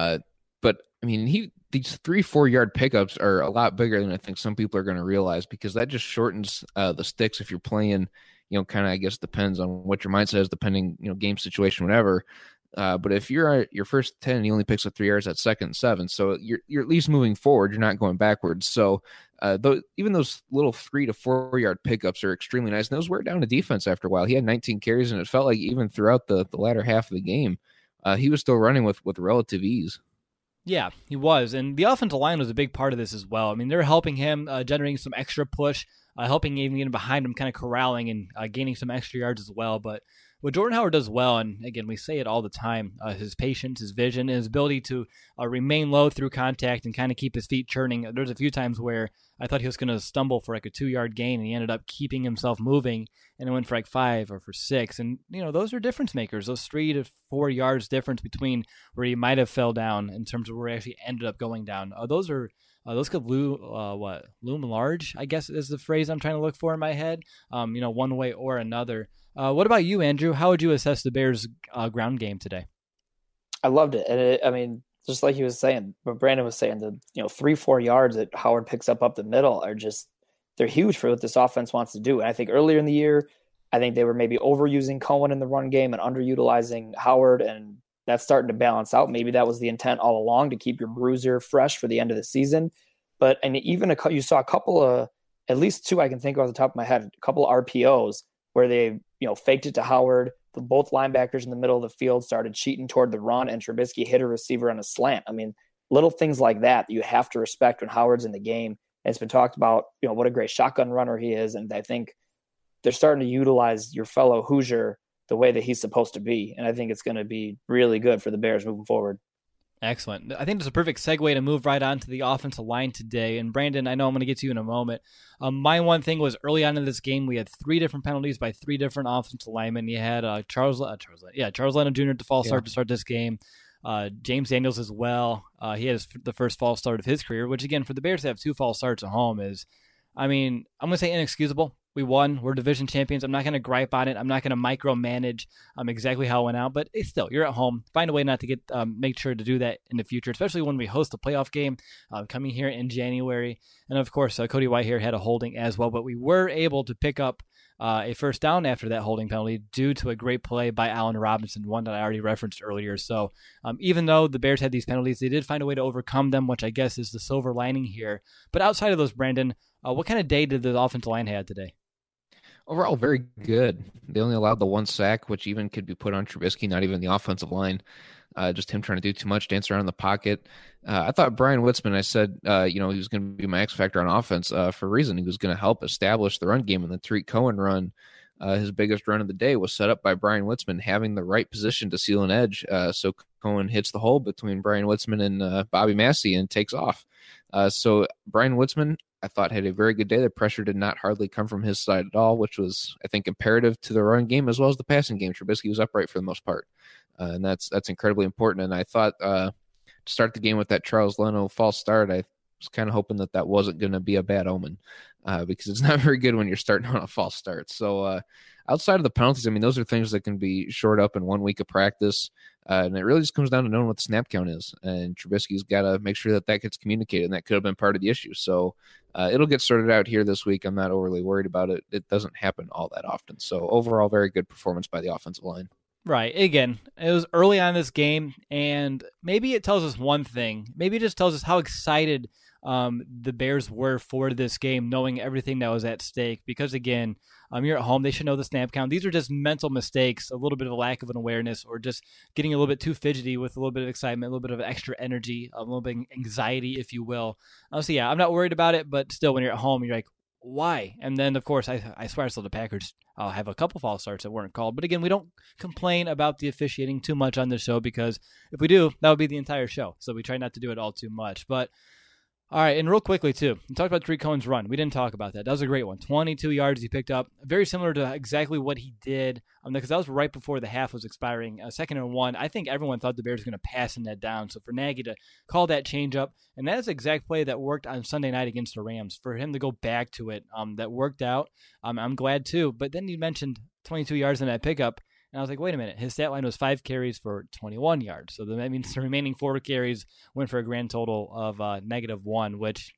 But I mean, these 3-4 yard pickups are a lot bigger than I think some people are going to realize, because that just shortens the sticks if you're playing, kind of, I guess, depends on what your mindset is, depending, game situation, whatever. But if you're at your first 10 and he only picks up 3 yards at 2nd and 7, so you're at least moving forward. You're not going backwards. So even those little 3 to 4 yard pickups are extremely nice. And those wear down the defense after a while. He had 19 carries, and it felt like even throughout the latter half of the game, he was still running with relative ease. Yeah, he was. And the offensive line was a big part of this as well. I mean, they're helping him, generating some extra push, helping even get behind him, kind of corralling and gaining some extra yards as well. But what Jordan Howard does well, and again, we say it all the time, his patience, his vision, and his ability to remain low through contact and kind of keep his feet churning. There's a few times where I thought he was going to stumble for like a 2-yard gain, and he ended up keeping himself moving, and it went for like 5 or for 6. And, those are difference makers, those 3 to 4 yards difference between where he might have fell down in terms of where he actually ended up going down. Those could loom large, I guess is the phrase I'm trying to look for in my head, one way or another. What about you, Andrew? How would you assess the Bears' ground game today? I loved it. And just like he was saying, what Brandon was saying, the 3-4 yards that Howard picks up the middle are they're huge for what this offense wants to do. And I think earlier in the year, I think they were maybe overusing Cohen in the run game and underutilizing Howard, and that's starting to balance out. Maybe that was the intent all along, to keep your bruiser fresh for the end of the season. And even you saw a couple of, at least 2 I can think of off the top of my head, a couple of RPOs where they faked it to Howard, both linebackers in the middle of the field started cheating toward the run, and Trubisky hit a receiver on a slant. I mean, little things like that you have to respect when Howard's in the game. And it's been talked about, what a great shotgun runner he is. And I think they're starting to utilize your fellow Hoosier the way that he's supposed to be. And I think it's going to be really good for the Bears moving forward. Excellent. I think it's a perfect segue to move right on to the offensive line today. And Brandon, I know I'm going to get to you in a moment. My one thing was early on in this game, we had 3 different penalties by 3 different offensive linemen. You had Charles Leno Jr. at the false start to start this game. James Daniels as well. He has the first false start of his career, which again, for the Bears to have 2 false starts at home is, I'm going to say inexcusable. We won. We're division champions. I'm not going to gripe on it. I'm not going to micromanage exactly how it went out. But still, you're at home. Find a way not to get make sure to do that in the future, especially when we host a playoff game coming here in January. And of course, Cody Whitehair had a holding as well. But we were able to pick up a first down after that holding penalty due to a great play by Allen Robinson, one that I already referenced earlier. So even though the Bears had these penalties, they did find a way to overcome them, which I guess is the silver lining here. But outside of those, Brandon, what kind of day did the offensive line have today? Overall, very good. They only allowed the 1 sack, which even could be put on Trubisky, not even the offensive line. Just him trying to do too much, dance around in the pocket. I thought Brian Witzman, I said, he was going to be my X factor on offense for a reason. He was going to help establish the run game, and the Tariq Cohen run, his biggest run of the day, was set up by Brian Witzman having the right position to seal an edge. So Cohen hits the hole between Brian Witzman and Bobby Massey and takes off. So Brian Witzman, I thought, had a very good day. The pressure did not hardly come from his side at all, which was, I think, imperative to the run game as well as the passing game. Trubisky was upright for the most part, and that's incredibly important. And I thought to start the game with that Charles Leno false start, I was kind of hoping that wasn't going to be a bad omen because it's not very good when you're starting on a false start. So outside of the penalties, I mean, those are things that can be shored up in 1 week of practice. And it really just comes down to knowing what the snap count is. And Trubisky's got to make sure that gets communicated, and that could have been part of the issue. So it'll get sorted out here this week. I'm not overly worried about it. It doesn't happen all that often. So overall, very good performance by the offensive line. Right. Again, it was early on in this game, and maybe it tells us one thing. Maybe it just tells us how excited the Bears were for this game, knowing everything that was at stake. Because again, you're at home, they should know the snap count. These are just mental mistakes, a little bit of a lack of an awareness, or just getting a little bit too fidgety with a little bit of excitement, a little bit of extra energy, a little bit of anxiety, if you will. So yeah, I'm not worried about it, but still, when you're at home, you're like, why? And then, of course, I swear I saw the Packers have a couple false starts that weren't called. But again, we don't complain about the officiating too much on this show, because if we do, that would be the entire show. So we try not to do it all too much. But all right, and real quickly, too, we talked about Tariq Cohen's run. We didn't talk about that. That was a great one. 22 yards he picked up. Very similar to exactly what he did, because that was right before the half was expiring. 2nd and 1. I think everyone thought the Bears were going to pass in that down. So for Nagy to call that change up, and that is the exact play that worked on Sunday night against the Rams. For him to go back to it, that worked out. I'm glad, too. But then you mentioned 22 yards in that pickup. And I was like, wait a minute, his stat line was 5 carries for 21 yards. So that means the remaining 4 carries went for a grand total of -1, which,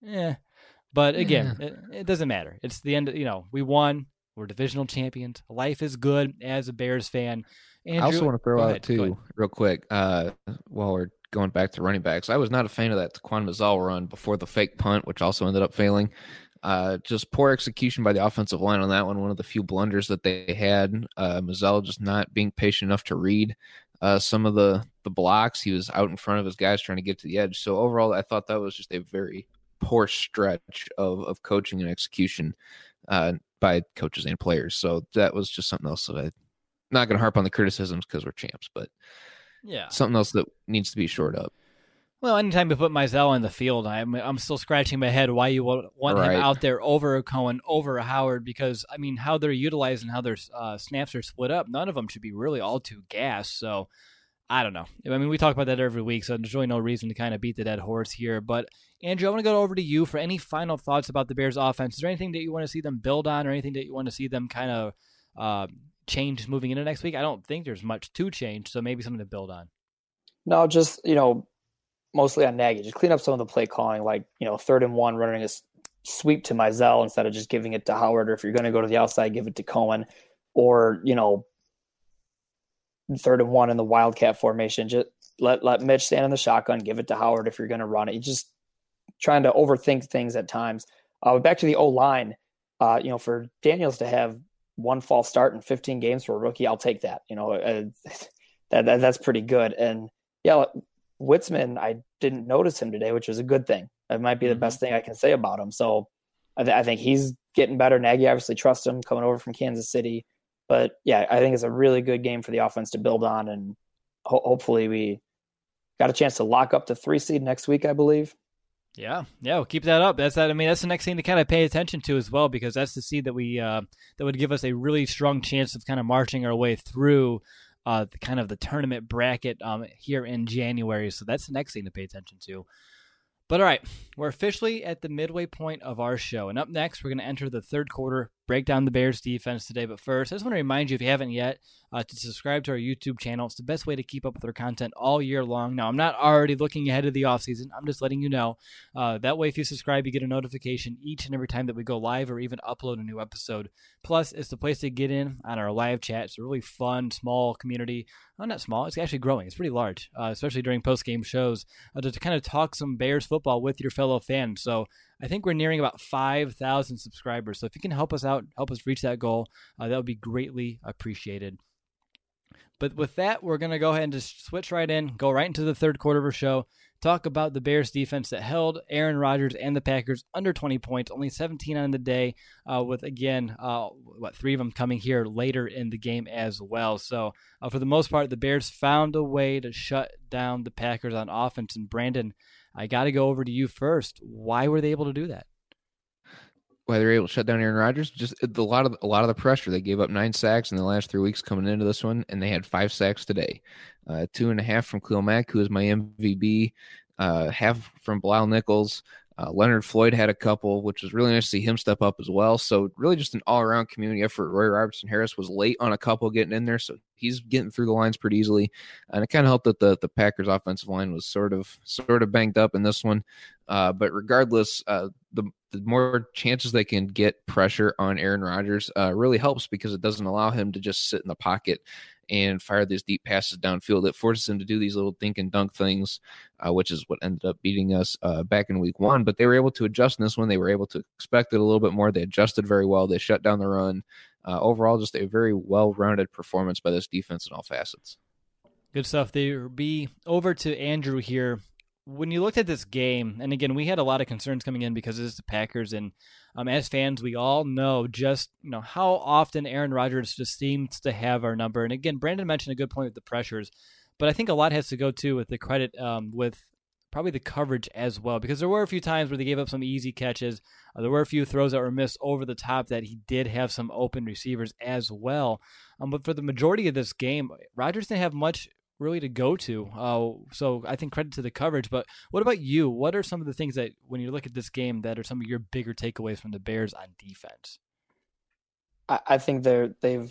But again, it doesn't matter. It's the end. We won. We're divisional champions. Life is good as a Bears fan. Andrew, I also want to throw out, too, real quick, while we're going back to running backs, I was not a fan of that Taquan Mazzell run before the fake punt, which also ended up failing. Just poor execution by the offensive line on that one. One of the few blunders that they had. Mazzell just not being patient enough to read some of the blocks. He was out in front of his guys trying to get to the edge. So overall, I thought that was just a very poor stretch of coaching and execution by coaches and players. So that was just something else that I'm not going to harp on the criticisms because we're champs, but something else that needs to be shored up. Well, anytime you put Mazzell in the field, I'm still scratching my head why you want him out there over Cohen, over Howard, because, how they're utilized and how their snaps are split up, none of them should be really all too gassed. So, I don't know. We talk about that every week, so there's really no reason to kind of beat the dead horse here. But, Andrew, I want to go over to you for any final thoughts about the Bears' offense. Is there anything that you want to see them build on or anything that you want to see them kind of change moving into next week? I don't think there's much to change, so maybe something to build on. No, just, mostly on Nagy. Just clean up some of the play calling, like, 3rd and 1, running a sweep to Mazzell instead of just giving it to Howard. Or if you're going to go to the outside, give it to Cohen. Or, 3rd and 1 in the Wildcat formation. Just let Mitch stand in the shotgun, give it to Howard if you're going to run it. You're just trying to overthink things at times. Back to the O-line, for Daniels to have one false start in 15 games for a rookie, I'll take that. That's pretty good. And yeah, Witzman, I didn't notice him today, which was a good thing. That might be the best thing I can say about him. So I think he's getting better. Nagy obviously trusts him coming over from Kansas City. But yeah, I think it's a really good game for the offense to build on. And hopefully we got a chance to lock up the 3 seed next week, I believe. Yeah, we'll keep that up. That's the next thing to kind of pay attention to as well, because that's the seed that we that would give us a really strong chance of kind of marching our way through the tournament bracket here in January. So that's the next thing to pay attention to. But all right, we're officially at the midway point of our show. And up next, we're going to enter the third quarter, break down the Bears defense today. But first, I just want to remind you, if you haven't yet, to subscribe to our YouTube channel. It's the best way to keep up with our content all year long. Now, I'm not already looking ahead of the offseason. I'm just letting you know. That way, if you subscribe, you get a notification each and every time that we go live or even upload a new episode. Plus, it's the place to get in on our live chat. It's a really fun, small community. Well, not small. It's actually growing. It's pretty large, especially during post-game shows, to kind of talk some Bears football with your fellow fans. So I think we're nearing about 5,000 subscribers. So if you can help us out, help us reach that goal, that would be greatly appreciated. But with that, we're going to go ahead and just switch right in, go right into the third quarter of our show, talk about the Bears defense that held Aaron Rodgers and the Packers under 20 points, only 17 on the day, with, again, 3 of them coming here later in the game as well. So for the most part, the Bears found a way to shut down the Packers on offense. And Brandon, I got to go over to you first. Why were they able to do that? Why they were able to shut down Aaron Rodgers? Just a lot of the pressure. They gave up 9 sacks in the last 3 weeks coming into this one, and they had 5 sacks today. 2.5 from Khalil Mack, who is my MVP. Half from Bilal Nichols. Leonard Floyd had a couple, which was really nice to see him step up as well. So really just an all-around community effort. Roy Robertson-Harris was late on a couple getting in there, so he's getting through the lines pretty easily. And it kind of helped that the Packers offensive line was sort of banged up in this one. But regardless, the more chances they can get pressure on Aaron Rodgers really helps, because it doesn't allow him to just sit in the pocket and fire these deep passes downfield. It forces him to do these little dink and dunk things, which is what ended up beating us back in week 1. But they were able to adjust in this one. They were able to expect it a little bit more. They adjusted very well. They shut down the run. Overall, just a very well-rounded performance by this defense in all facets. Good stuff. They'll be over to Andrew here. When you looked at this game, and again, we had a lot of concerns coming in because it's the Packers, and as fans, we all know just how often Aaron Rodgers just seems to have our number. And again, Brandon mentioned a good point with the pressures, but I think a lot has to go too with the credit with probably the coverage as well, because there were a few times where they gave up some easy catches. There were a few throws that were missed over the top that he did have some open receivers as well. But for the majority of this game, Rodgers didn't have much really to go to. So I think credit to the coverage. But what about you? What are some of the things that, when you look at this game, that are some of your bigger takeaways from the Bears on defense? I think they've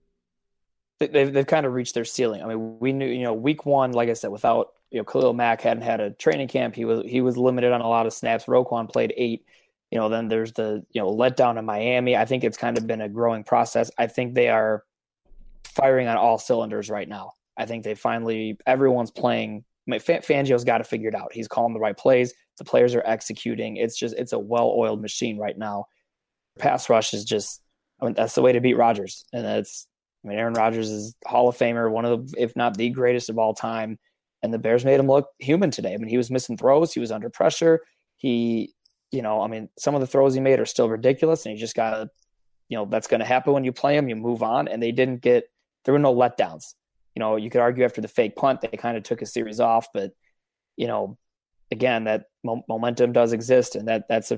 kind of reached their ceiling. I mean, we knew, week 1, like I said, without, Khalil Mack hadn't had a training camp. He was limited on a lot of snaps. Roquan played 8. Then there's the, letdown in Miami. I think it's kind of been a growing process. I think they are firing on all cylinders right now. I think everyone's playing. Fangio's got to figure it out. He's calling the right plays. The players are executing. It's a well-oiled machine right now. Pass rush is just, that's the way to beat Rodgers. And Aaron Rodgers is Hall of Famer, one of the, if not the greatest of all time. And the Bears made him look human today. He was missing throws. He was under pressure. Some of the throws he made are still ridiculous, and you just got to, that's going to happen when you play him. You move on, and there were no letdowns. You could argue after the fake punt, they kind of took a series off, but, again, that momentum does exist, and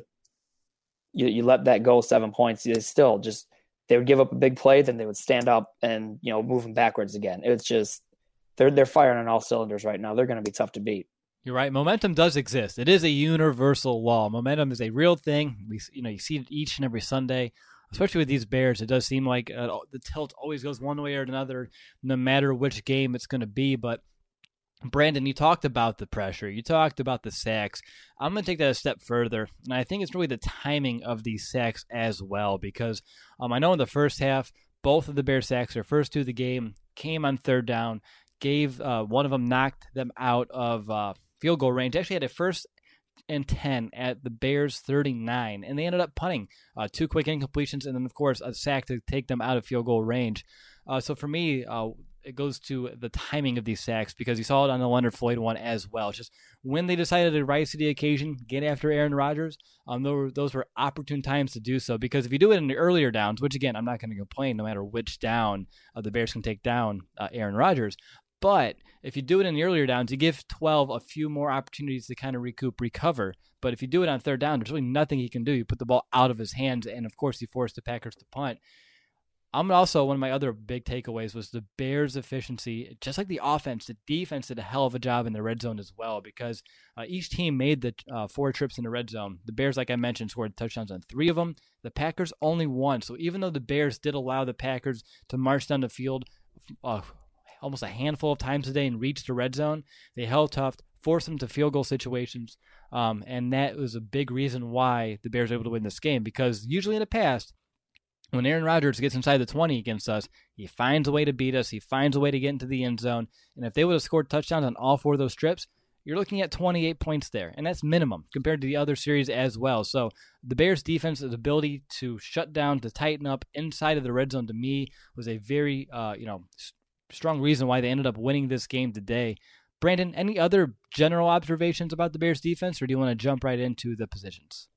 you let that go 7 points. They would give up a big play, then they would stand up and, move them backwards again. It's just, they're firing on all cylinders right now. They're going to be tough to beat. You're right. Momentum does exist. It is a universal law. Momentum is a real thing. You see it each and every Sunday. Especially with these Bears, it does seem like the tilt always goes one way or another, no matter which game it's going to be. But, Brandon, you talked about the pressure. You talked about the sacks. I'm going to take that a step further, and I think it's really the timing of these sacks as well, because I know in the first half, both of the Bears sacks, their first 2 of the game, came on third down, one of them knocked them out of field goal range. Actually had a first and 10 at the Bears 39, and they ended up punting 2 quick incompletions and then, of course, a sack to take them out of field goal range. So for me, it goes to the timing of these sacks, because you saw it on the Leonard Floyd one as well. It's just when they decided to rise to the occasion, get after Aaron Rodgers, those were opportune times to do so, because if you do it in the earlier downs, which again, I'm not going to complain no matter which down the Bears can take down Aaron Rodgers, but if you do it in the earlier downs, you give 12 a few more opportunities to kind of recover. But if you do it on third down, there's really nothing he can do. You put the ball out of his hands, and of course, you force the Packers to punt. One of my other big takeaways was the Bears' efficiency. Just like the offense, the defense did a hell of a job in the red zone as well, because each team made the 4 trips in the red zone. The Bears, like I mentioned, scored touchdowns on 3 of them. The Packers only 1. So even though the Bears did allow the Packers to march down the field almost a handful of times a day and reach the red zone, they held tough, forced them to field goal situations, and that was a big reason why the Bears were able to win this game, because usually in the past, when Aaron Rodgers gets inside the 20 against us, he finds a way to beat us. He finds a way to get into the end zone. And if they would have scored touchdowns on all 4 of those trips, you're looking at 28 points there. And that's minimum compared to the other series as well. So the Bears' defense's ability to shut down, to tighten up inside of the red zone, to me, was a very strong reason why they ended up winning this game today. Brandon, any other general observations about the Bears' defense, or do you want to jump right into the positions?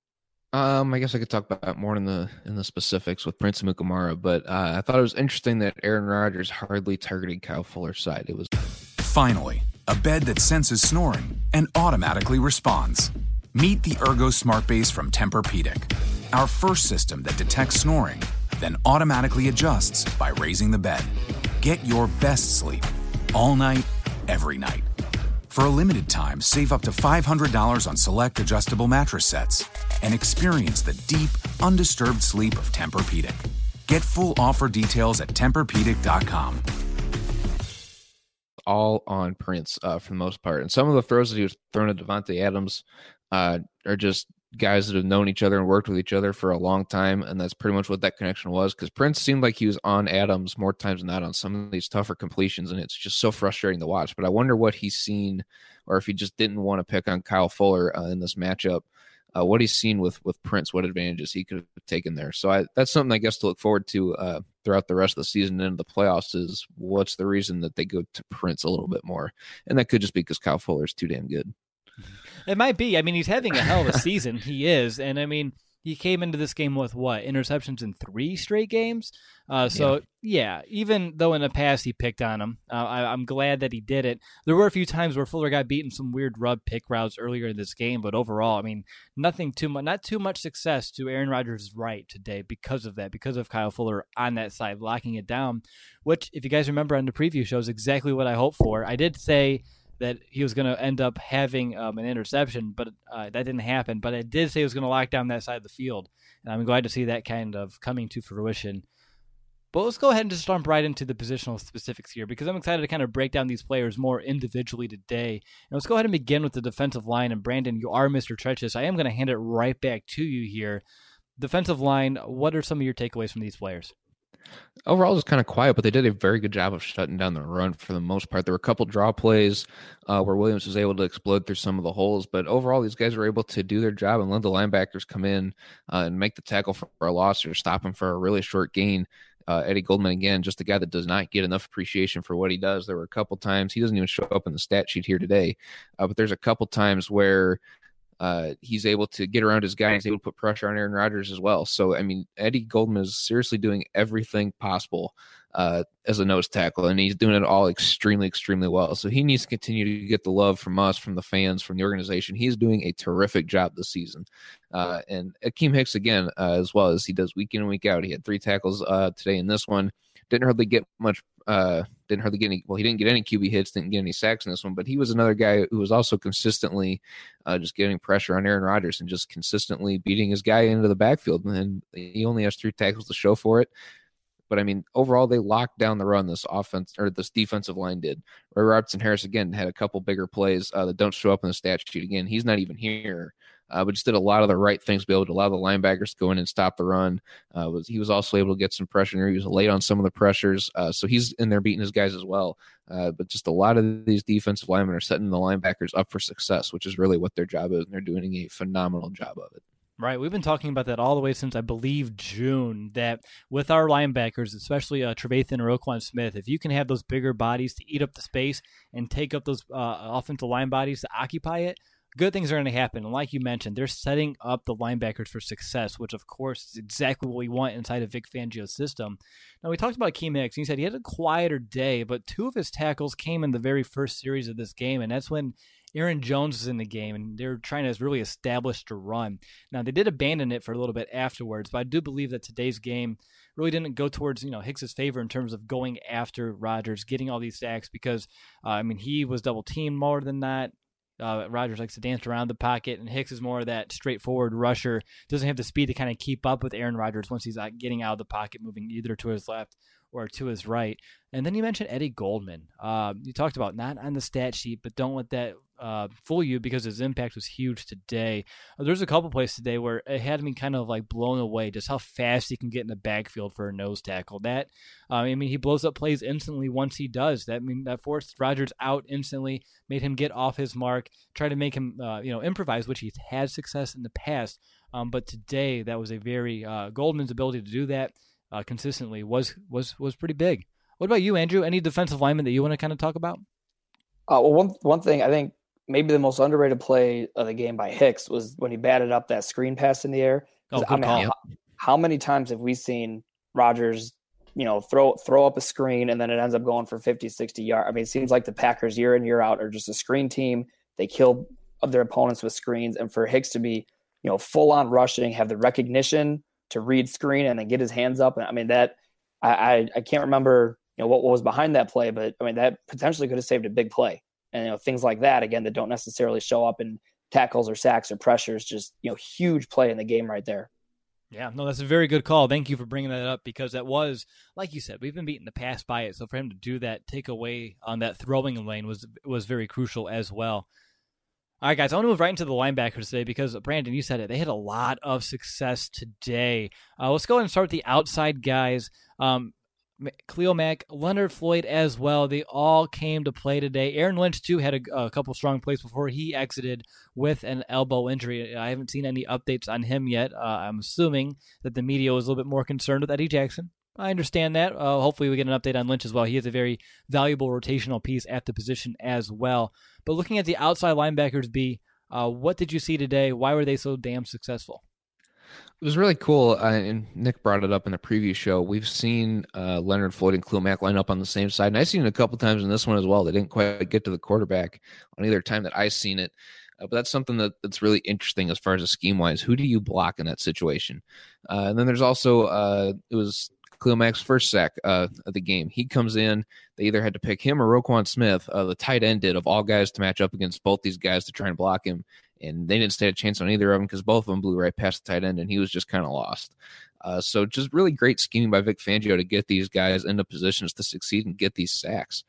I guess I could talk about more in the specifics with Prince Amukamara, but I thought it was interesting that Aaron Rodgers hardly targeted Kyle Fuller's side. It was finally a bed that senses snoring and automatically responds. Meet the Ergo Smart Base from Tempur-Pedic, our first system that detects snoring, then automatically adjusts by raising the bed. Get your best sleep all night, every night. For a limited time, save up to $500 on select adjustable mattress sets and experience the deep, undisturbed sleep of Tempur-Pedic. Get full offer details at TempurPedic.com. All on Prince for the most part. And some of the throws that he was throwing to Devontae Adams are just guys that have known each other and worked with each other for a long time, and that's pretty much what that connection was, because Prince seemed like he was on Adams more times than not on some of these tougher completions, and it's just so frustrating to watch. But I wonder what he's seen, or if he just didn't want to pick on Kyle Fuller in this matchup, what he's seen with Prince, what advantages he could have taken there. So that's something I guess to look forward to throughout the rest of the season and into the playoffs, is what's the reason that they go to Prince a little bit more. And that could just be because Kyle Fuller is too damn good. It might be. I mean, he's having a hell of a season. He is. And, I mean, he came into this game with, interceptions in 3 straight games? Even though in the past he picked on him, I'm glad that he did it. There were a few times where Fuller got beaten some weird rub pick routes earlier in this game, but overall, I mean, not too much success to Aaron Rodgers' right today because of that, because of Kyle Fuller on that side, locking it down, which, if you guys remember on the preview show, is exactly what I hoped for. I did say that he was going to end up having an interception, but that didn't happen. But I did say he was going to lock down that side of the field, and I'm glad to see that kind of coming to fruition. But let's go ahead and just jump right into the positional specifics here, because I'm excited to kind of break down these players more individually today. And let's go ahead and begin with the defensive line. And Brandon, you are Mr. Treacherous. I am going to hand it right back to you here. Defensive line, what are some of your takeaways from these players? Overall, it was kind of quiet, but they did a very good job of shutting down the run for the most part. There were a couple draw plays where Williams was able to explode through some of the holes, but overall, these guys were able to do their job and let the linebackers come in and make the tackle for a loss or stop him for a really short gain. Eddie Goldman, again, just a guy that does not get enough appreciation for what he does. There were a couple times, he doesn't even show up in the stat sheet here today, but there's a couple times where he's able to get around his guy and he's able to put pressure on Aaron Rodgers as well. So, I mean, Eddie Goldman is seriously doing everything possible as a nose tackle, and he's doing it all extremely, extremely well. So he needs to continue to get the love from us, from the fans, from the organization. He's doing a terrific job this season. And Akeem Hicks, again, as well as he does week in and week out. He had 3 tackles today in this one. Didn't hardly get any. Well, he didn't get any QB hits, didn't get any sacks in this one, but he was another guy who was also consistently just getting pressure on Aaron Rodgers and just consistently beating his guy into the backfield. And he only has 3 tackles to show for it. But I mean, overall, they locked down the run. This defensive line did. Roy Robertson Harris again had a couple bigger plays that don't show up in the stat sheet. Again, he's not even here but just did a lot of the right things, be able to allow the linebackers to go in and stop the run. He was also able to get some pressure. He was late on some of the pressures, so he's in there beating his guys as well. But just a lot of these defensive linemen are setting the linebackers up for success, which is really what their job is, and they're doing a phenomenal job of it. Right. We've been talking about that all the way since, I believe, June, that with our linebackers, especially Trevathan or Roquan Smith, if you can have those bigger bodies to eat up the space and take up those offensive line bodies to occupy it, good things are going to happen. And like you mentioned, they're setting up the linebackers for success, which, of course, is exactly what we want inside of Vic Fangio's system. Now, we talked about Akiem Hicks, and he said he had a quieter day, but 2 of his tackles came in the very first series of this game, and that's when Aaron Jones was in the game, and they're trying to really establish the run. Now, they did abandon it for a little bit afterwards, but I do believe that today's game really didn't go towards, Hicks's favor in terms of going after Rodgers, getting all these sacks, because, he was double-teamed more than that. Rodgers likes to dance around the pocket, and Hicks is more of that straightforward rusher. Doesn't have the speed to kind of keep up with Aaron Rodgers once he's getting out of the pocket, moving either to his left or to his right. And then you mentioned Eddie Goldman. You talked about not on the stat sheet, but don't let that fool you, because his impact was huge today. There's a couple plays today where it had me kind of like blown away just how fast he can get in the backfield for a nose tackle. That he blows up plays instantly once he does. That forced Rodgers out instantly, made him get off his mark, try to make him improvise, which he's had success in the past. But today that was a very Goldman's ability to do that consistently was pretty big. What about you, Andrew? Any defensive lineman that you want to kind of talk about? One thing I think maybe the most underrated play of the game by Hicks was when he batted up that screen pass in the air. Good call. How many times have we seen Rodgers, throw up a screen and then it ends up going for 50, 60 yards? It seems like the Packers year in, year out are just a screen team. They kill their opponents with screens. And for Hicks to be, full on rushing, have the recognition to read screen and then get his hands up. That I can't remember, what was behind that play, but that potentially could have saved a big play. And things like that, again, that don't necessarily show up in tackles or sacks or pressures, just huge play in the game right there. Yeah, no, that's a very good call. Thank you for bringing that up, because that was, like you said, we've been beaten the pass by it. So for him to do that, take away on that throwing lane was very crucial as well. All right, guys, I want to move right into the linebackers today because, Brandon, you said it. They had a lot of success today. Let's go ahead and start with the outside guys. Khalil Mack, Leonard Floyd as well. They all came to play today. Aaron Lynch, too, had a couple strong plays before he exited with an elbow injury. I haven't seen any updates on him yet. I'm assuming that the media was a little bit more concerned with Eddie Jackson. I understand that. Hopefully we get an update on Lynch as well. He is a very valuable rotational piece at the position as well. But looking at the outside linebackers, what did you see today? Why were they so damn successful? It was really cool, and Nick brought it up in the preview show. We've seen Leonard Floyd and Khalil Mack line up on the same side, and I've seen it a couple times in this one as well. They didn't quite get to the quarterback on either time that I've seen it, but that's something that's really interesting as far as a scheme-wise. Who do you block in that situation? And then there's also it was Khalil Mack's first sack of the game. He comes in. They either had to pick him or Roquan Smith, the tight end did, of all guys, to match up against both these guys to try and block him. And they didn't stand a chance on either of them because both of them blew right past the tight end, and he was just kind of lost. So just really great scheming by Vic Fangio to get these guys into positions to succeed and get these sacks.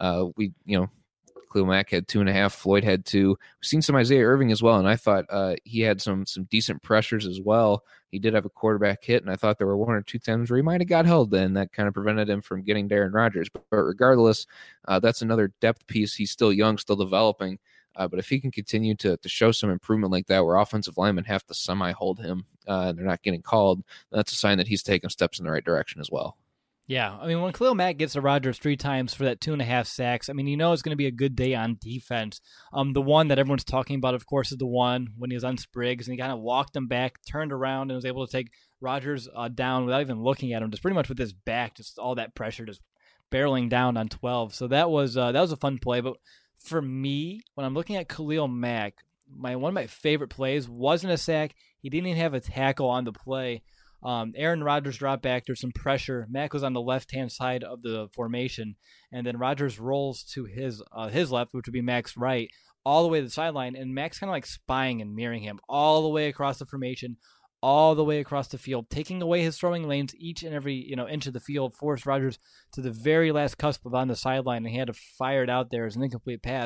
Khalil Mack had 2.5. Floyd had 2. We've seen some Isaiah Irving as well, and I thought he had some decent pressures as well. He did have a quarterback hit, and I thought there were 1 or 2 times where he might have got held, and that kind of prevented him from getting Darren Rodgers. But regardless, that's another depth piece. He's still young, still developing. But if he can continue to show some improvement like that, where offensive linemen have to semi-hold him and they're not getting called, that's a sign that he's taking steps in the right direction as well. Yeah, when Khalil Mack gets to Rodgers 3 times for that 2.5 sacks, it's going to be a good day on defense. The one that everyone's talking about, of course, is the one when he was on Spriggs, and he kind of walked him back, turned around, and was able to take Rodgers down without even looking at him, just pretty much with his back, just all that pressure just barreling down on 12. So that was a fun play, but for me, when I'm looking at Khalil Mack, one of my favorite plays wasn't a sack. He didn't even have a tackle on the play. Aaron Rodgers dropped back. There's some pressure. Mack was on the left-hand side of the formation, and then Rodgers rolls to his left, which would be Mack's right, all the way to the sideline, and Mack's kind of like spying and mirroring him all the way across the formation, all the way across the field, taking away his throwing lanes each and every inch of the field, forced Rodgers to the very last cusp of on the sideline, and he had to fire it out there as an incomplete pass.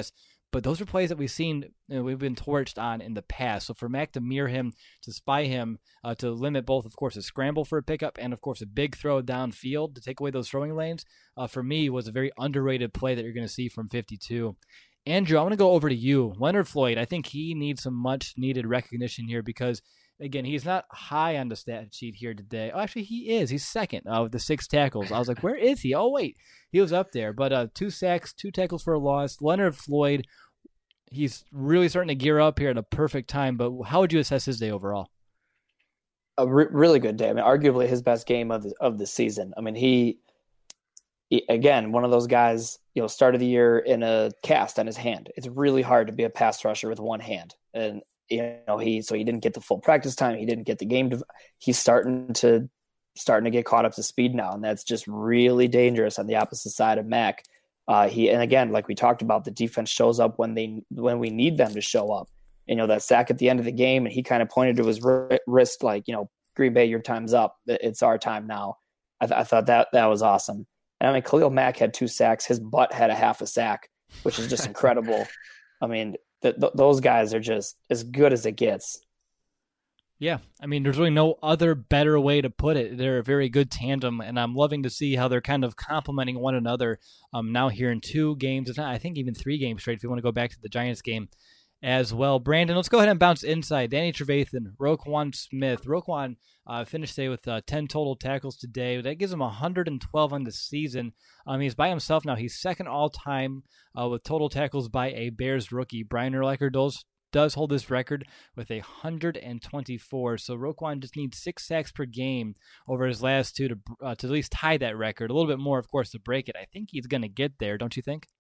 But those are plays that we've seen, we've been torched on in the past. So for Mac to mirror him, to spy him, to limit both, of course, a scramble for a pickup and, of course, a big throw downfield to take away those throwing lanes, for me was a very underrated play that you're going to see from 52. Andrew, I want to go over to you. Leonard Floyd, I think he needs some much-needed recognition here because, again, he's not high on the stat sheet here today. Oh, actually, he is. He's second with the 6 tackles. I was like, where is he? Oh, wait. He was up there. But 2 sacks, 2 tackles for a loss. Leonard Floyd, he's really starting to gear up here at a perfect time. But how would you assess his day overall? A really good day. I mean, arguably his best game of the season. I mean, he again, one of those guys, started the year in a cast on his hand. It's really hard to be a pass rusher with one hand. And, he didn't get the full practice time. He didn't get the game. He's starting to get caught up to speed now. And that's just really dangerous on the opposite side of Mac. And again, like we talked about, the defense shows up when we need them to show up. That sack at the end of the game, and he kind of pointed to his wrist like, Green Bay, your time's up. It's our time now. I thought that was awesome. And I mean, Khalil Mack had 2 sacks. His butt had a half a sack, which is just incredible. I mean, those guys are just as good as it gets. Yeah, I mean, there's really no other better way to put it. They're a very good tandem, and I'm loving to see how they're kind of complementing one another now here in 2 games. It's not, I think, even 3 games straight if you want to go back to the Giants game as well. Brandon, let's go ahead and bounce inside. Danny Trevathan, Roquan Smith. Roquan finished today with 10 total tackles today. That gives him 112 on the season. He's by himself now. He's second all-time with total tackles by a Bears rookie. Brian Urlacher does hold this record with 124. So Roquan just needs 6 sacks per game over his last 2 to at least tie that record. A little bit more, of course, to break it. I think he's going to get there, don't you think?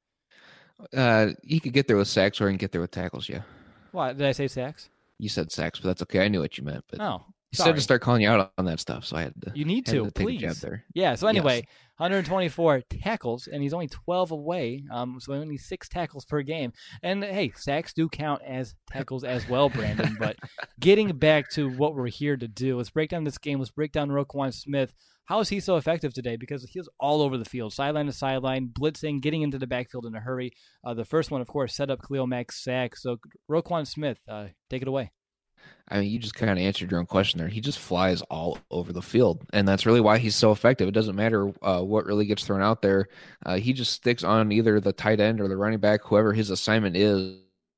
He could get there with sacks, or he can get there with tackles. Yeah. What did I say? Sacks? You said sacks, but that's okay. I knew what you meant. But you sorry. said to start calling you out on that stuff, so I had to. You need to take please. a jab there. Yeah. So anyway, Yes. 124 tackles, and he's only 12 away. So only 6 tackles per game. And hey, sacks do count as tackles as well, Brandon. But getting back to what we're here to do, let's break down this game. Let's break down Roquan Smith. How is he so effective today? Because he was all over the field, sideline to sideline, blitzing, getting into the backfield in a hurry. The first one, of course, set up Khalil Mack's sack. So Roquan Smith, take it away. I mean, you just kind of answered your own question there. He just flies all over the field, and that's really why he's so effective. It doesn't matter what really gets thrown out there. He just sticks on either the tight end or the running back, whoever his assignment is,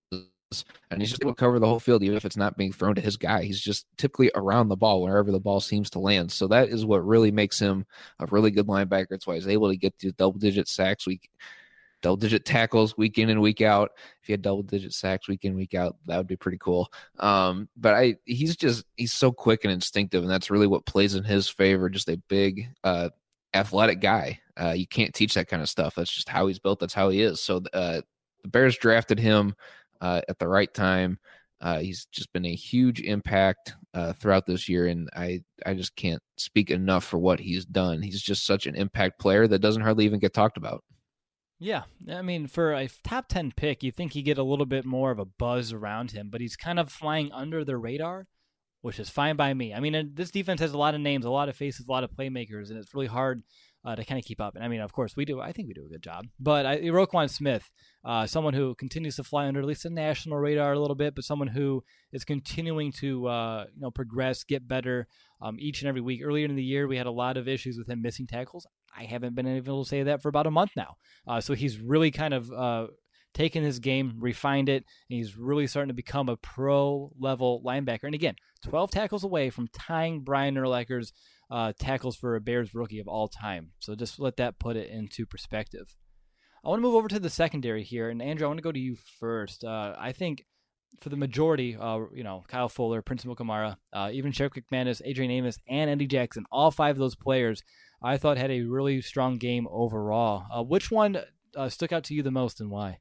and he's just able to cover the whole field, even if it's not being thrown to his guy. He's just typically around the ball wherever the ball seems to land. So that is what really makes him a really good linebacker. It's why he's able to get to double-digit sacks double-digit tackles week in and week out. If he had double-digit sacks week in, week out, that would be pretty cool. But he's so quick and instinctive, and that's really what plays in his favor. Just a big, athletic guy. You can't teach that kind of stuff. That's just how he's built. That's how he is. So the Bears drafted him at the right time. He's just been a huge impact throughout this year, and I just can't speak enough for what he's done. He's just such an impact player that doesn't hardly even get talked about. Yeah, I mean, for a top 10 pick, you think you get a little bit more of a buzz around him, but he's kind of flying under the radar, which is fine by me. I mean, this defense has a lot of names, a lot of faces, a lot of playmakers, and it's really hard to kind of keep up. And I mean, of course, we do. I think we do a good job. But Roquan Smith, someone who continues to fly under at least the national radar a little bit, but someone who is continuing to progress, get better each and every week. Earlier in the year, we had a lot of issues with him missing tackles. I haven't been able to say that for about a month now. So he's really kind of taken his game, refined it, and he's really starting to become a pro-level linebacker. And again, 12 tackles away from tying Brian Urlacher's tackles for a Bears rookie of all time. So just let that put it into perspective. I want to move over to the secondary here. And Andrew, I want to go to you first. I think for the majority, Kyle Fuller, Prince Mukamara, even Sheriff McManus, Adrian Amos, and Eddie Jackson, all 5 of those players, I thought had a really strong game overall. Which one stuck out to you the most and why?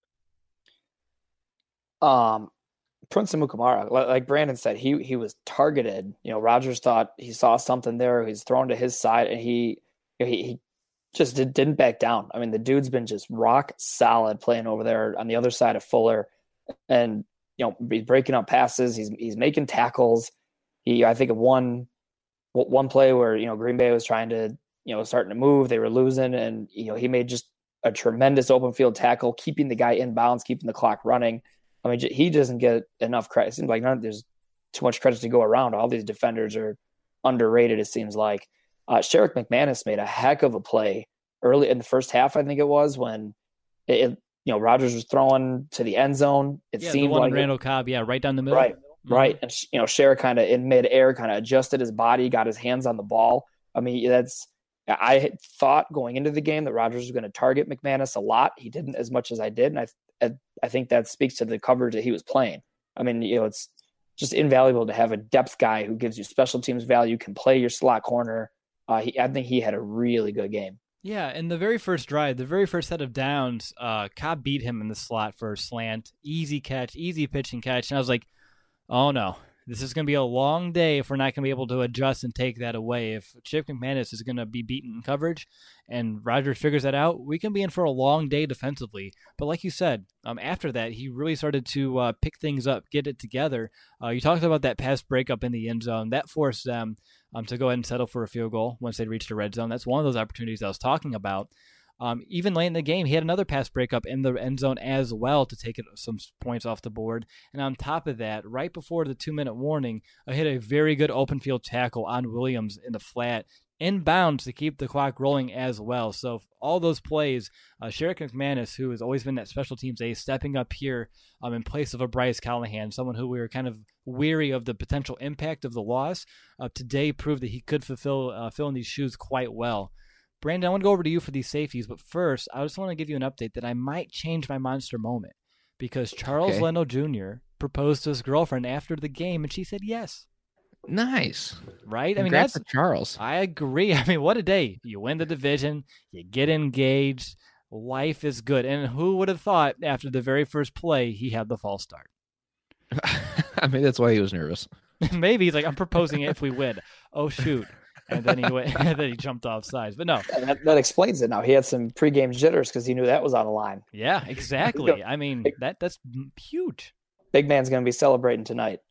Prince Mukamara, like Brandon said, he was targeted. Rodgers thought he saw something there. He's thrown to his side, and he just didn't back down. I mean, the dude's been just rock solid playing over there on the other side of Fuller, and he's breaking up passes. He's making tackles. I think of one play where Green Bay was trying to starting to move. They were losing, and he made just a tremendous open field tackle, keeping the guy in bounds, keeping the clock running. I mean, he doesn't get enough credit. It seems like there's too much credit to go around. All these defenders are underrated, it seems like. Sherrick McManus made a heck of a play early in the first half, I think it was, when Rodgers was throwing to the end zone. It seemed the one like on Randall Cobb, right down the middle. Right, right. And Sherrick kind of in midair kind of adjusted his body, got his hands on the ball. I mean, I had thought going into the game that Rodgers was going to target McManus a lot. He didn't as much as I did, and I think that speaks to the coverage that he was playing. I mean, it's just invaluable to have a depth guy who gives you special teams value, can play your slot corner. I think he had a really good game. Yeah, in the very first drive, the very first set of downs, Cobb beat him in the slot for a slant. Easy catch, easy pitch and catch. And I was like, oh no, this is going to be a long day if we're not going to be able to adjust and take that away. If Chip McManus is going to be beaten in coverage and Rodgers figures that out, we can be in for a long day defensively. But like you said, after that, he really started to pick things up, get it together. You talked about that pass breakup in the end zone. That forced them to go ahead and settle for a field goal once they reached the red zone. That's one of those opportunities I was talking about. Even late in the game, he had another pass breakup in the end zone as well to take some points off the board. And on top of that, right before the 2-minute warning, I hit a very good open field tackle on Williams in the flat, inbounds to keep the clock rolling as well. So all those plays, Sherrick McManus, who has always been that special teams ace, stepping up here in place of a Bryce Callahan, someone who we were kind of weary of the potential impact of the loss, today proved that he could fill in these shoes quite well. Brandon, I want to go over to you for these safeties, but first, I just want to give you an update that I might change my monster moment because Charles Leno Jr. proposed to his girlfriend after the game, and she said yes. Nice. Right? Congrats to Charles. I agree. I mean, what a day. You win the division, you get engaged, life is good. And who would have thought after the very first play he had the false start? I mean, that's why he was nervous. Maybe he's like, I'm proposing it if we win. Oh, shoot. And then he went, and then he jumped off sides. But no. That explains it now. He had some pregame jitters because he knew that was on the line. Yeah, exactly. I mean, that's huge. Big man's going to be celebrating tonight.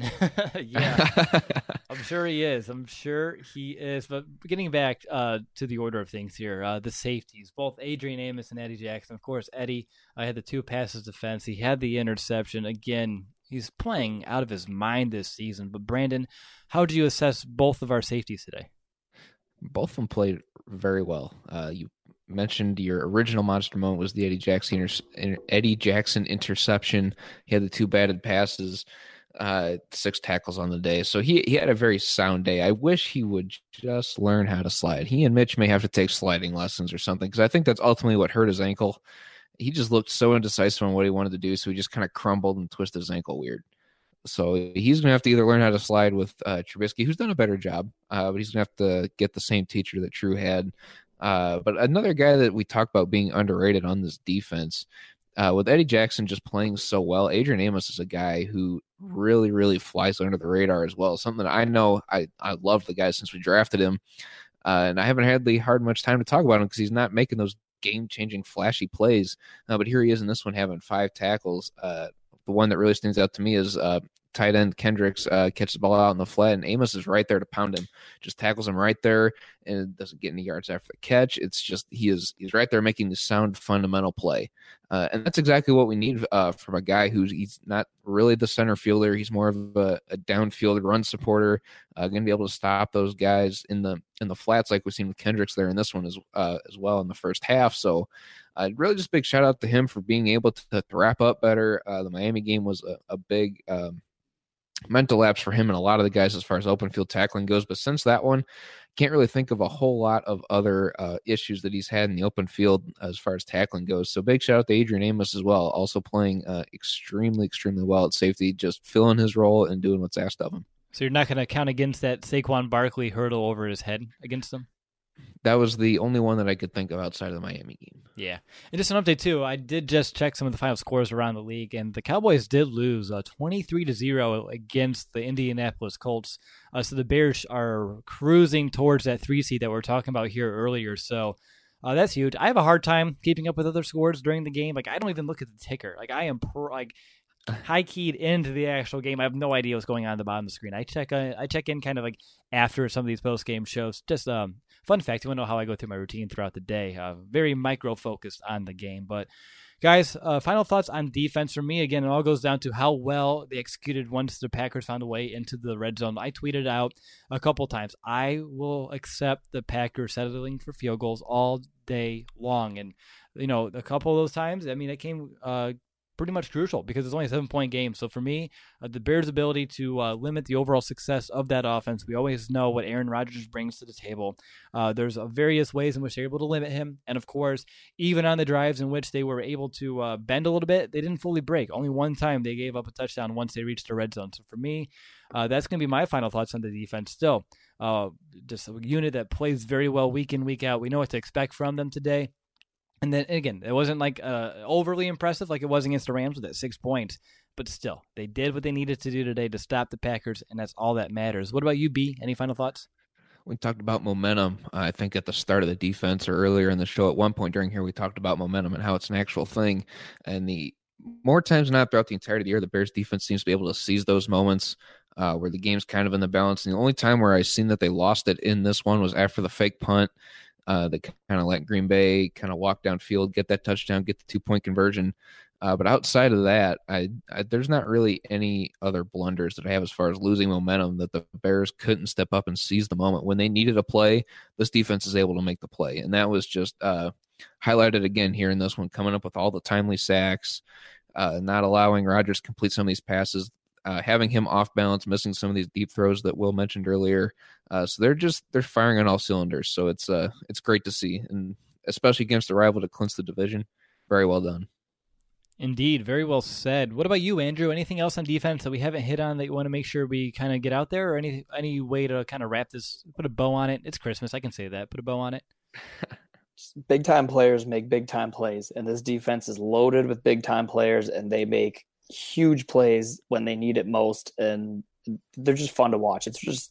Yeah, I'm sure he is. But getting back to the order of things here, the safeties, both Adrian Amos and Eddie Jackson. Of course, Eddie had the 2 passes defense. He had the interception. Again, he's playing out of his mind this season. But Brandon, how do you assess both of our safeties today? Both of them played very well. You mentioned your original monster moment was the Eddie Jackson interception. He had the 2 batted passes. 6 tackles on the day. So he had a very sound day. I wish he would just learn how to slide. He and Mitch may have to take sliding lessons or something, because I think that's ultimately what hurt his ankle. He just looked so indecisive on what he wanted to do, so he just kind of crumbled and twisted his ankle weird. So he's going to have to either learn how to slide with Trubisky, who's done a better job, but he's going to have to get the same teacher that True had. But another guy that we talk about being underrated on this defense, with Eddie Jackson just playing so well, Adrian Amos is a guy who really, really flies under the radar as well. Something that I know I love the guy since we drafted him. And I haven't had much time to talk about him because he's not making those game-changing, flashy plays. But here he is in this one having 5 tackles. The one that really stands out to me is tight end Kendricks catches the ball out in the flat, and Amos is right there to pound him. Just tackles him right there, and doesn't get any yards after the catch. It's just he's right there making the sound fundamental play, and that's exactly what we need from a guy he's not really the center fielder. He's more of a downfield run supporter, going to be able to stop those guys in the flats like we've seen with Kendricks there in this one as well in the first half. So. Really just big shout out to him for being able to wrap up better. The Miami game was a big mental lapse for him and a lot of the guys as far as open field tackling goes. But since that one, can't really think of a whole lot of other issues that he's had in the open field as far as tackling goes. So big shout out to Adrian Amos as well, also playing extremely, extremely well at safety, just filling his role and doing what's asked of him. So you're not going to count against that Saquon Barkley hurdle over his head against him? That was the only one that I could think of outside of the Miami game. Yeah. And just an update, too. I did just check some of the final scores around the league, and the Cowboys did lose 23-0 against the Indianapolis Colts. So the Bears are cruising towards that 3 seed that we were talking about here earlier. So that's huge. I have a hard time keeping up with other scores during the game. Like, I don't even look at the ticker. Like, I am high keyed into the actual game. I have no idea what's going on at the bottom of the screen. I check in kind of like after some of these post game shows. Just fun fact, you want to know how I go through my routine throughout the day. Very micro focused on the game. But guys, final thoughts on defense for me. Again, it all goes down to how well they executed once the Packers found a way into the red zone. I tweeted out a couple times, I will accept the Packers settling for field goals all day long. And, a couple of those times, I mean, it came pretty much crucial because it's only a 7-point game. So for me, the Bears' ability to limit the overall success of that offense, we always know what Aaron Rodgers brings to the table. There's various ways in which they're able to limit him. And of course, even on the drives in which they were able to bend a little bit, they didn't fully break. Only one time they gave up a touchdown once they reached the red zone. So for me, that's going to be my final thoughts on the defense still. Just a unit that plays very well week in, week out. We know what to expect from them today. And then, again, it wasn't like overly impressive like it was against the Rams with that 6 points. But still, they did what they needed to do today to stop the Packers, and that's all that matters. What about you, B? Any final thoughts? We talked about momentum, I think, at the start of the defense or earlier in the show. At one point during here, we talked about momentum and how it's an actual thing. And the more times than not throughout the entirety of the year, the Bears defense seems to be able to seize those moments where the game's kind of in the balance. And the only time where I've seen that they lost it in this one was after the fake punt. They kind of let Green Bay kind of walk downfield, get that touchdown, get the 2-point conversion. But outside of that, there's not really any other blunders that I have as far as losing momentum that the Bears couldn't step up and seize the moment. When they needed a play, this defense is able to make the play. And that was just highlighted again here in this one, coming up with all the timely sacks, not allowing Rodgers to complete some of these passes, having him off balance, missing some of these deep throws that Will mentioned earlier. So they're firing on all cylinders. So it's great to see, and especially against a rival to clinch the division. Very well done. Indeed, very well said. What about you, Andrew? Anything else on defense that we haven't hit on that you want to make sure we kind of get out there, or any way to kind of wrap this, put a bow on it? It's Christmas, I can say that. Put a bow on it. Big time players make big time plays, and this defense is loaded with big time players, and they make huge plays when they need it most, and they're just fun to watch. It's just,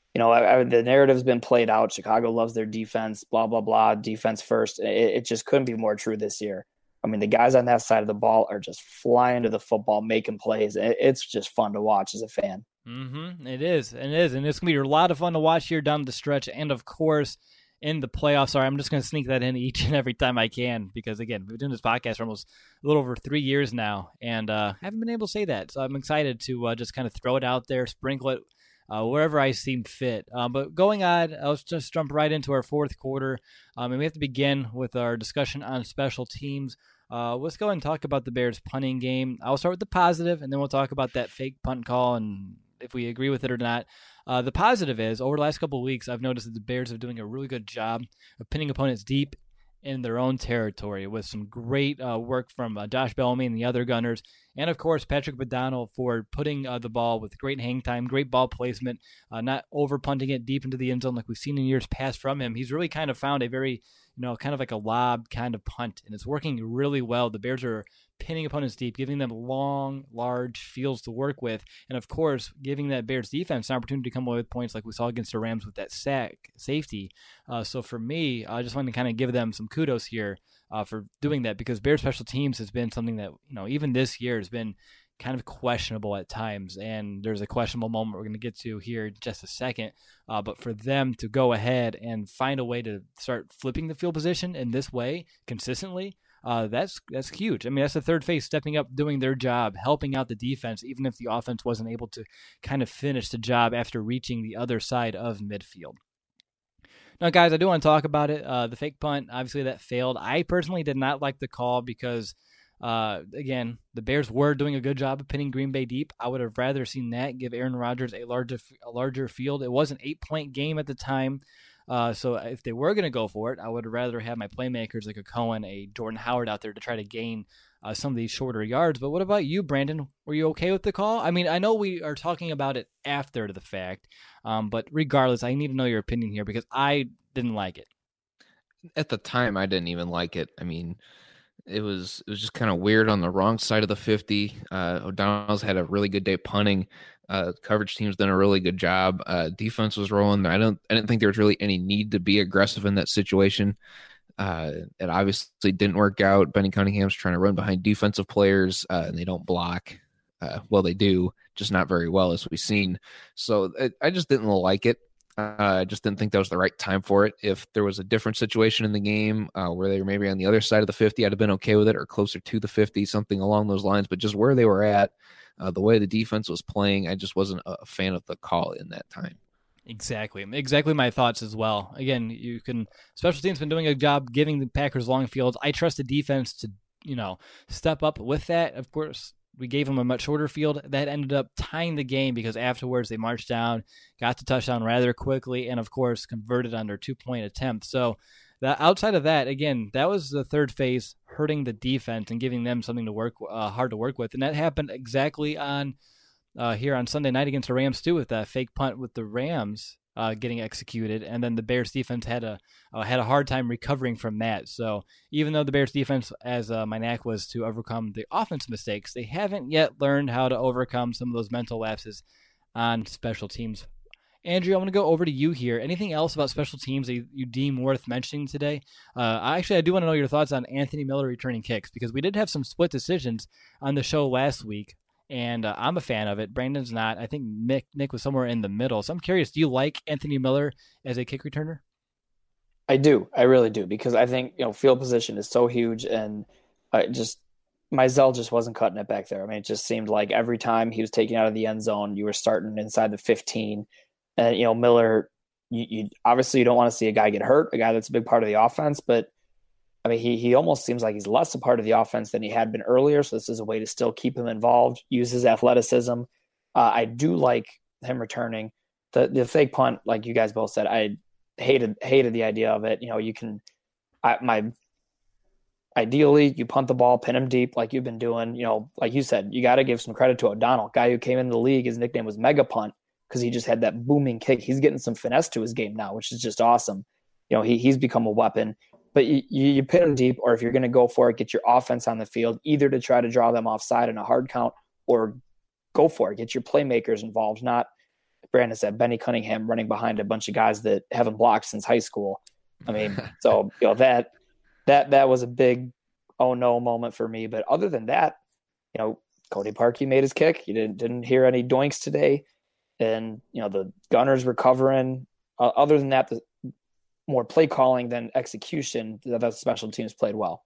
the narrative's been played out. Chicago loves their defense, blah, blah, blah, defense first. It just couldn't be more true this year. I mean, the guys on that side of the ball are just flying to the football, making plays. It's just fun to watch as a fan. Mm-hmm. It is. And it's going to be a lot of fun to watch here down the stretch. And, of course, in the playoffs. Sorry, I'm just going to sneak that in each and every time I can because, again, we've been doing this podcast for almost a little over 3 years now, and haven't been able to say that. So I'm excited to just kind of throw it out there, sprinkle it wherever I seem fit. But going on, let's just jump right into our fourth quarter. And we have to begin with our discussion on special teams. Let's go ahead and talk about the Bears punting game. I'll start with the positive, and then we'll talk about that fake punt call and if we agree with it or not. The positive is, over the last couple of weeks, I've noticed that the Bears are doing a really good job of pinning opponents deep in their own territory with some great work from Josh Bellamy and the other Gunners. And, of course, Patrick O'Donnell for putting the ball with great hang time, great ball placement, not over-punting it deep into the end zone like we've seen in years past from him. He's really kind of found a very, kind of like a lob kind of punt, and it's working really well. The Bears are pinning opponents deep, giving them long, large fields to work with, and, of course, giving that Bears defense an opportunity to come away with points like we saw against the Rams with that safety. So for me, I just want to kind of give them some kudos here for doing that, because Bears special teams has been something that, even this year has been kind of questionable at times, and there's a questionable moment we're going to get to here in just a second. But for them to go ahead and find a way to start flipping the field position in this way consistently, that's huge. I mean, that's the third phase stepping up, doing their job, helping out the defense, even if the offense wasn't able to kind of finish the job after reaching the other side of midfield. Now, guys, I do want to talk about it. The fake punt, obviously that failed. I personally did not like the call because, again, the Bears were doing a good job of pinning Green Bay deep. I would have rather seen that give Aaron Rodgers a larger field. It was an 8-point game at the time. So if they were going to go for it, I would rather have my playmakers like a Cohen, a Jordan Howard out there to try to gain some of these shorter yards. But what about you, Brandon? Were you okay with the call? I mean, I know we are talking about it after the fact, but regardless, I need to know your opinion here because I didn't like it. At the time, I didn't even like it. I mean, it was just kind of weird on the wrong side of the 50. O'Donnell's had a really good day punting. Coverage team's done a really good job. Defense was rolling. I didn't think there was really any need to be aggressive in that situation. It obviously didn't work out. Benny Cunningham's trying to run behind defensive players, and they don't block. well, they do, just not very well, as we've seen. So I just didn't like it. I just didn't think that was the right time for it. If there was a different situation in the game where they were maybe on the other side of the 50, I'd have been okay with it, or closer to the 50, something along those lines. But just where they were at, the way the defense was playing, I just wasn't a fan of the call in that time. Exactly my thoughts as well. Again, special teams been doing a job giving the Packers long fields. I trust the defense to, step up with that. Of course, we gave them a much shorter field. That ended up tying the game because afterwards they marched down, got the touchdown rather quickly, and of course converted on their 2-point attempt. So outside of that, again, that was the third phase, hurting the defense and giving them something to work hard to work with. And that happened exactly on here on Sunday night against the Rams too, with that fake punt with the Rams getting executed, and then the Bears defense had a hard time recovering from that. So even though the Bears defense, as my knack was to overcome the offense mistakes, they haven't yet learned how to overcome some of those mental lapses on special teams. Andrew, I want to go over to you here. Anything else about special teams that you deem worth mentioning today? I do want to know your thoughts on Anthony Miller returning kicks, because we did have some split decisions on the show last week. And I'm a fan of it. Brandon's not. I think Nick was somewhere in the middle. So I'm curious, do you like Anthony Miller as a kick returner? I do. I really do, because I think, field position is so huge, and Mizell just wasn't cutting it back there. I mean, it just seemed like every time he was taken out of the end zone, you were starting inside the 15. And, Miller, you obviously you don't want to see a guy get hurt, a guy that's a big part of the offense, but I mean, he almost seems like he's less a part of the offense than he had been earlier. So this is a way to still keep him involved, use his athleticism. I do like him returning the fake punt. Like you guys both said, I hated the idea of it. Ideally you punt the ball, pin him deep like you've been doing. Like you said, you got to give some credit to O'Donnell, guy who came into the league. His nickname was Mega Punt because he just had that booming kick. He's getting some finesse to his game now, which is just awesome. He's become a weapon. But you pin them deep, or if you're going to go for it, get your offense on the field, either to try to draw them offside in a hard count, or go for it. Get your playmakers involved, not, Brandon said, Benny Cunningham running behind a bunch of guys that haven't blocked since high school. I mean, so that was a big oh no moment for me. But other than that, Cody Parkey made his kick. You didn't hear any doinks today, and the Gunners recovering. Other than that, the more play calling than execution, the special teams played well.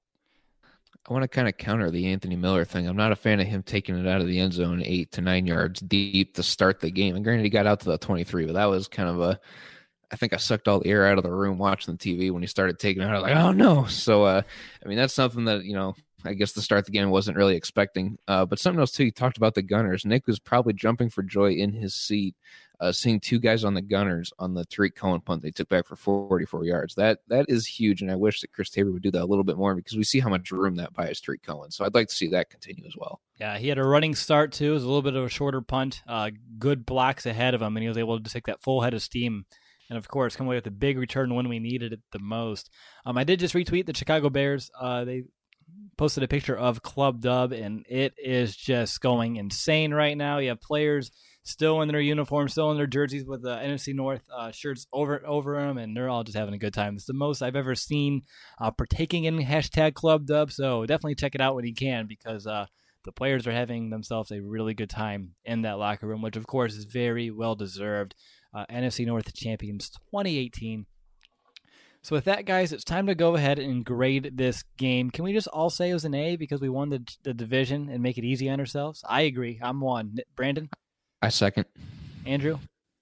I want to kind of counter the Anthony Miller thing. I'm not a fan of him taking it out of the end zone 8 to 9 yards deep to start the game. And granted, he got out to the 23, but that was kind of I think I sucked all the air out of the room watching the TV when he started taking it out. I was like, oh no. So, that's something that, I guess to start the game wasn't really expecting. But something else too, you talked about the Gunners. Nick was probably jumping for joy in his seat, seeing two guys on the Gunners on the Tariq Cohen punt they took back for 44 yards. That is huge, and I wish that Chris Tabor would do that a little bit more, because we see how much room that buys Tariq Cohen. So I'd like to see that continue as well. Yeah, he had a running start too. It was a little bit of a shorter punt. Good blocks ahead of him, and he was able to take that full head of steam. And, of course, come away with a big return when we needed it the most. I did just retweet the Chicago Bears. They posted a picture of Club Dub, and it is just going insane right now. You have players still in their uniforms, still in their jerseys with the NFC North shirts over them, and they're all just having a good time. It's the most I've ever seen partaking in hashtag Club Dub, so definitely check it out when you can, because the players are having themselves a really good time in that locker room, which, of course, is very well-deserved. NFC North champions 2018. So with that, guys, it's time to go ahead and grade this game. Can we just all say it was an A because we won the division and make it easy on ourselves? I agree. I'm 1. Brandon? I second. Andrew?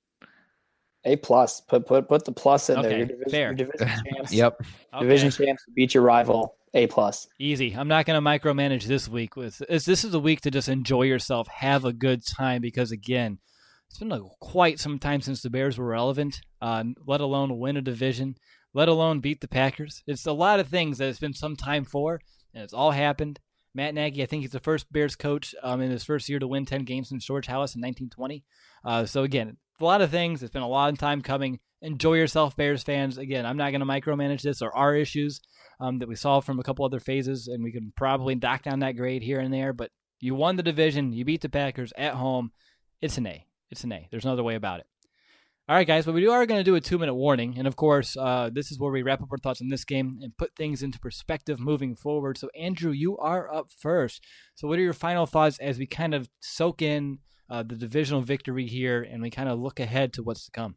A+. Put the plus in there. Your division champs. Yep. Division champs beat your rival. A+. Easy. I'm not going to micromanage this week. This is a week to just enjoy yourself, have a good time, because, again, it's been quite some time since the Bears were relevant, let alone win a division, let alone beat the Packers. It's a lot of things that it's been some time for, and it's all happened. Matt Nagy, I think he's the first Bears coach in his first year to win 10 games since George Halas in 1920. So, again, a lot of things. It's been a long time coming. Enjoy yourself, Bears fans. Again, I'm not going to micromanage this. There are issues that we saw from a couple other phases, and we can probably knock down that grade here and there. But you won the division. You beat the Packers at home. It's an A. It's an A. There's no other way about it. All right, guys, but we are going to do a 2-minute warning. And, of course, this is where we wrap up our thoughts on this game and put things into perspective moving forward. So, Andrew, you are up first. So what are your final thoughts as we kind of soak in the divisional victory here and we kind of look ahead to what's to come?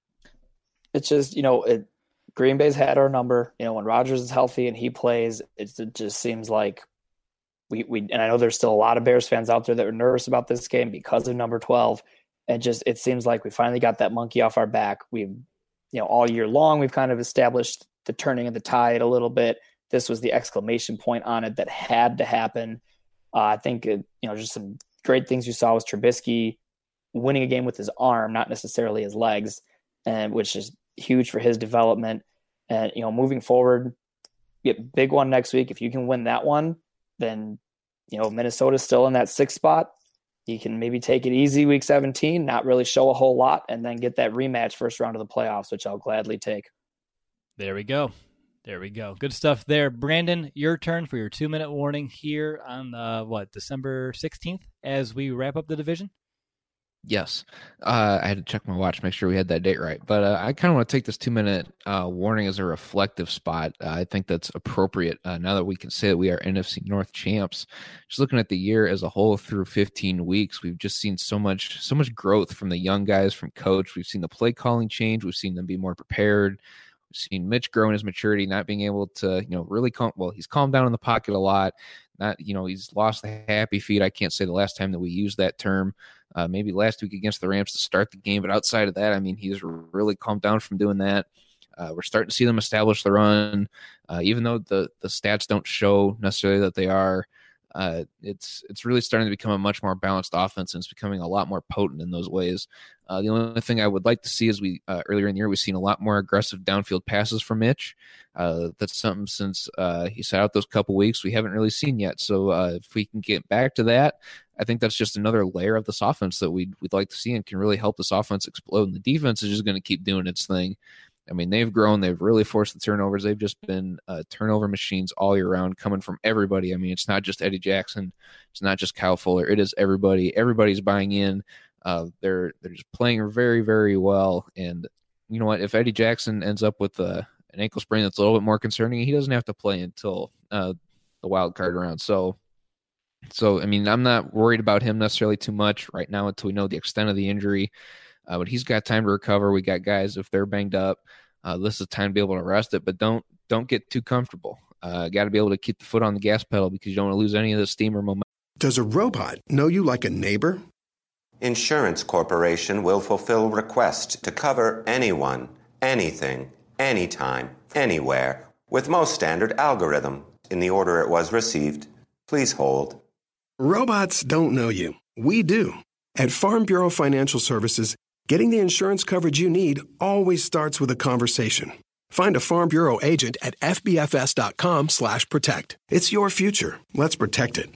It's just, Green Bay's had our number. When Rodgers is healthy and he plays, it just seems like we and I know there's still a lot of Bears fans out there that are nervous about this game because of number 12. And just, it seems like we finally got that monkey off our back. We've, all year long, we've kind of established the turning of the tide a little bit. This was the exclamation point on it that had to happen. I think, just some great things you saw was Trubisky winning a game with his arm, not necessarily his legs, and which is huge for his development. And, moving forward, get big one next week. If you can win that one, then, Minnesota's still in that 6th spot. You can maybe take it easy week 17, not really show a whole lot, and then get that rematch first round of the playoffs, which I'll gladly take. There we go. Good stuff there. Brandon, your turn for your 2-minute warning here on December 16th as we wrap up the division. Yes. I had to check my watch, make sure we had that date right. But I kind of want to take this 2-minute warning as a reflective spot. I think that's appropriate now that we can say that we are NFC North champs. Just looking at the year as a whole through 15 weeks, we've just seen so much growth from the young guys, from coach. We've seen the play calling change. We've seen them be more prepared. We've seen Mitch grow in his maturity, not being able to, really he's calmed down in the pocket a lot. He's lost the happy feet. I can't say the last time that we used that term. Maybe last week against the Rams to start the game. But outside of that, he's really calmed down from doing that. We're starting to see them establish the run. Even though the stats don't show necessarily that they are, it's really starting to become a much more balanced offense, and it's becoming a lot more potent in those ways. The only thing I would like to see is earlier in the year, we've seen a lot more aggressive downfield passes from Mitch. That's something since he sat out those couple weeks we haven't really seen yet. So if we can get back to that, I think that's just another layer of this offense that we'd like to see and can really help this offense explode. And the defense is just going to keep doing its thing. They've grown. They've really forced the turnovers. They've just been turnover machines all year round, coming from everybody. It's not just Eddie Jackson. It's not just Kyle Fuller. It is everybody. Everybody's buying in. They're just playing very, very well. And you know what? If Eddie Jackson ends up with an ankle sprain that's a little bit more concerning, he doesn't have to play until the wild card round. So I'm not worried about him necessarily too much right now until we know the extent of the injury. But he's got time to recover. We got guys, if they're banged up, this is time to be able to rest it. But don't get too comfortable. Got to be able to keep the foot on the gas pedal because you don't want to lose any of the steam or momentum. Does a robot know you like a neighbor? Insurance Corporation will fulfill requests to cover anyone, anything, anytime, anywhere, with most standard algorithm in the order it was received. Please hold. Robots don't know you. We do. At Farm Bureau Financial Services, getting the insurance coverage you need always starts with a conversation. Find a Farm Bureau agent at fbfs.com/protect. It's your future. Let's protect it.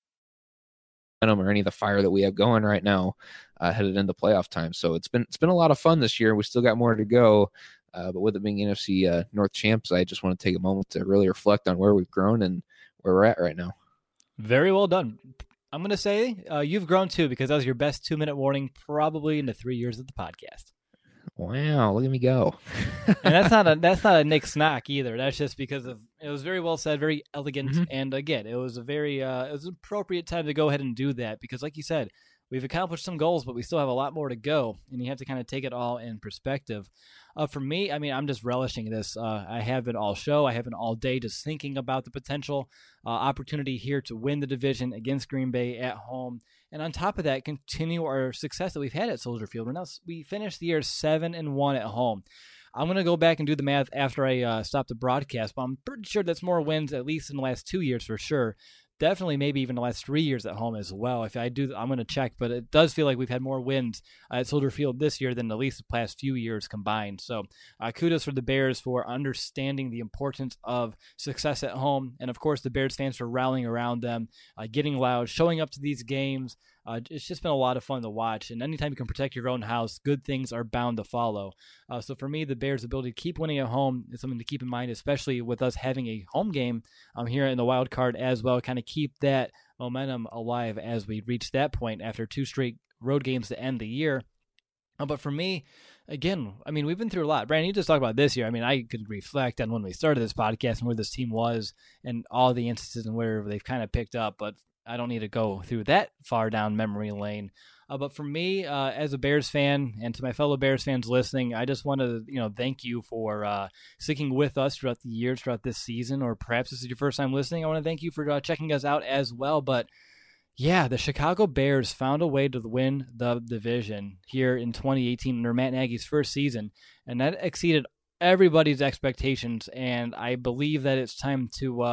Or any of the fire that we have going right now headed into playoff time. So it's been a lot of fun this year. We still got more to go. But with it being NFC North champs, I just want to take a moment to really reflect on where we've grown and where we're at right now. Very well done. I'm going to say you've grown too, because that was your best 2-minute warning probably in the 3 years of the podcast. Wow, look at me go. And that's not a Nick Snock either. That's just because it was very well said, very elegant. Mm-hmm. And again, it was it was an appropriate time to go ahead and do that because like you said, we've accomplished some goals, but we still have a lot more to go, and you have to kind of take it all in perspective. For me, I'm just relishing this. I have been all show. I have been all day just thinking about the potential opportunity here to win the division against Green Bay at home. And on top of that, continue our success that we've had at Soldier Field. We finished the year 7-1 at home. I'm going to go back and do the math after I stop the broadcast, but I'm pretty sure that's more wins, at least in the last 2 years for sure. Definitely maybe even the last 3 years at home as well. If I do, I'm going to check, but it does feel like we've had more wins at Soldier Field this year than at least the past few years combined. So kudos for the Bears for understanding the importance of success at home. And of course, the Bears fans for rallying around them, getting loud, showing up to these games. It's just been a lot of fun to watch. And anytime you can protect your own house, good things are bound to follow. So for me, the Bears' ability to keep winning at home is something to keep in mind, especially with us having a home game here in the wild card as well. Kind of keep that momentum alive as we reach that point after 2 straight road games to end the year. But for me, again, I mean, we've been through a lot. Brandon, you just talked about this year. I mean, I could reflect on when we started this podcast and where this team was and all the instances and where they've kind of picked up, but I don't need to go through that far down memory lane. But for me, as a Bears fan, and to my fellow Bears fans listening, I just want to, thank you for sticking with us throughout the years, throughout this season, or perhaps this is your first time listening. I want to thank you for checking us out as well. But yeah, the Chicago Bears found a way to win the division here in 2018 under Matt Nagy's first season, and that exceeded everybody's expectations. And I believe that it's time to,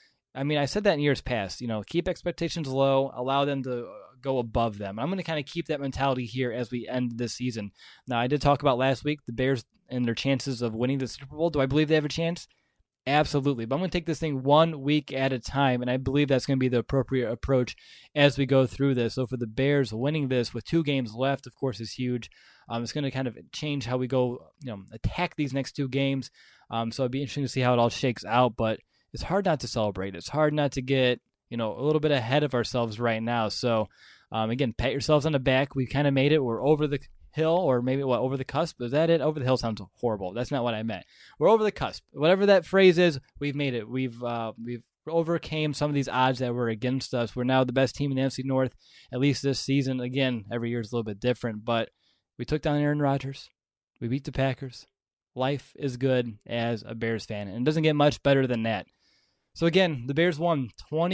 I said that in years past, keep expectations low, allow them to go above them. I'm going to kind of keep that mentality here as we end this season. Now, I did talk about last week the Bears and their chances of winning the Super Bowl. Do I believe they have a chance? Absolutely. But I'm going to take this thing 1 week at a time, and I believe that's going to be the appropriate approach as we go through this. So for the Bears, winning this with 2 games left, of course, is huge. It's going to kind of change how we go, attack these next 2 games. So it'd be interesting to see how it all shakes out, but it's hard not to celebrate. It's hard not to get, a little bit ahead of ourselves right now. So, again, pat yourselves on the back. We kind of made it. We're over the hill, or maybe over the cusp. Is that it? Over the hill sounds horrible. That's not what I meant. We're over the cusp. Whatever that phrase is, we've made it. We've overcame some of these odds that were against us. We're now the best team in the NFC North, at least this season. Again, every year is a little bit different, but we took down Aaron Rodgers. We beat the Packers. Life is good as a Bears fan, and it doesn't get much better than that. So again, the Bears won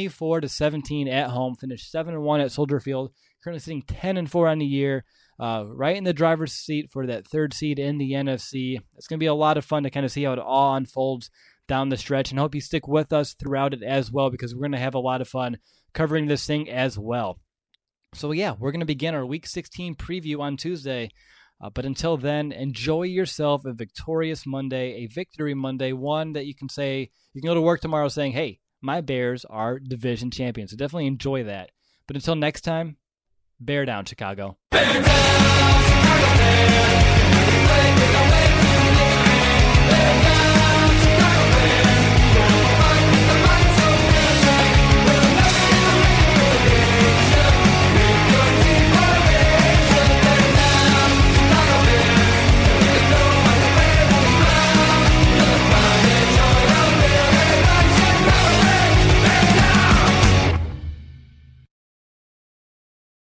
24-17 at home, finished 7-1 at Soldier Field, currently sitting 10-4 on the year, right in the driver's seat for that 3rd seed in the NFC. It's going to be a lot of fun to kind of see how it all unfolds down the stretch, and I hope you stick with us throughout it as well, because we're going to have a lot of fun covering this thing as well. So yeah, we're going to begin our Week 16 preview on Tuesday. But until then, enjoy yourself a victorious Monday, a victory Monday, one that you can say, you can go to work tomorrow saying, hey, my Bears are division champions. So definitely enjoy that. But until next time, bear down, Chicago. Bear down!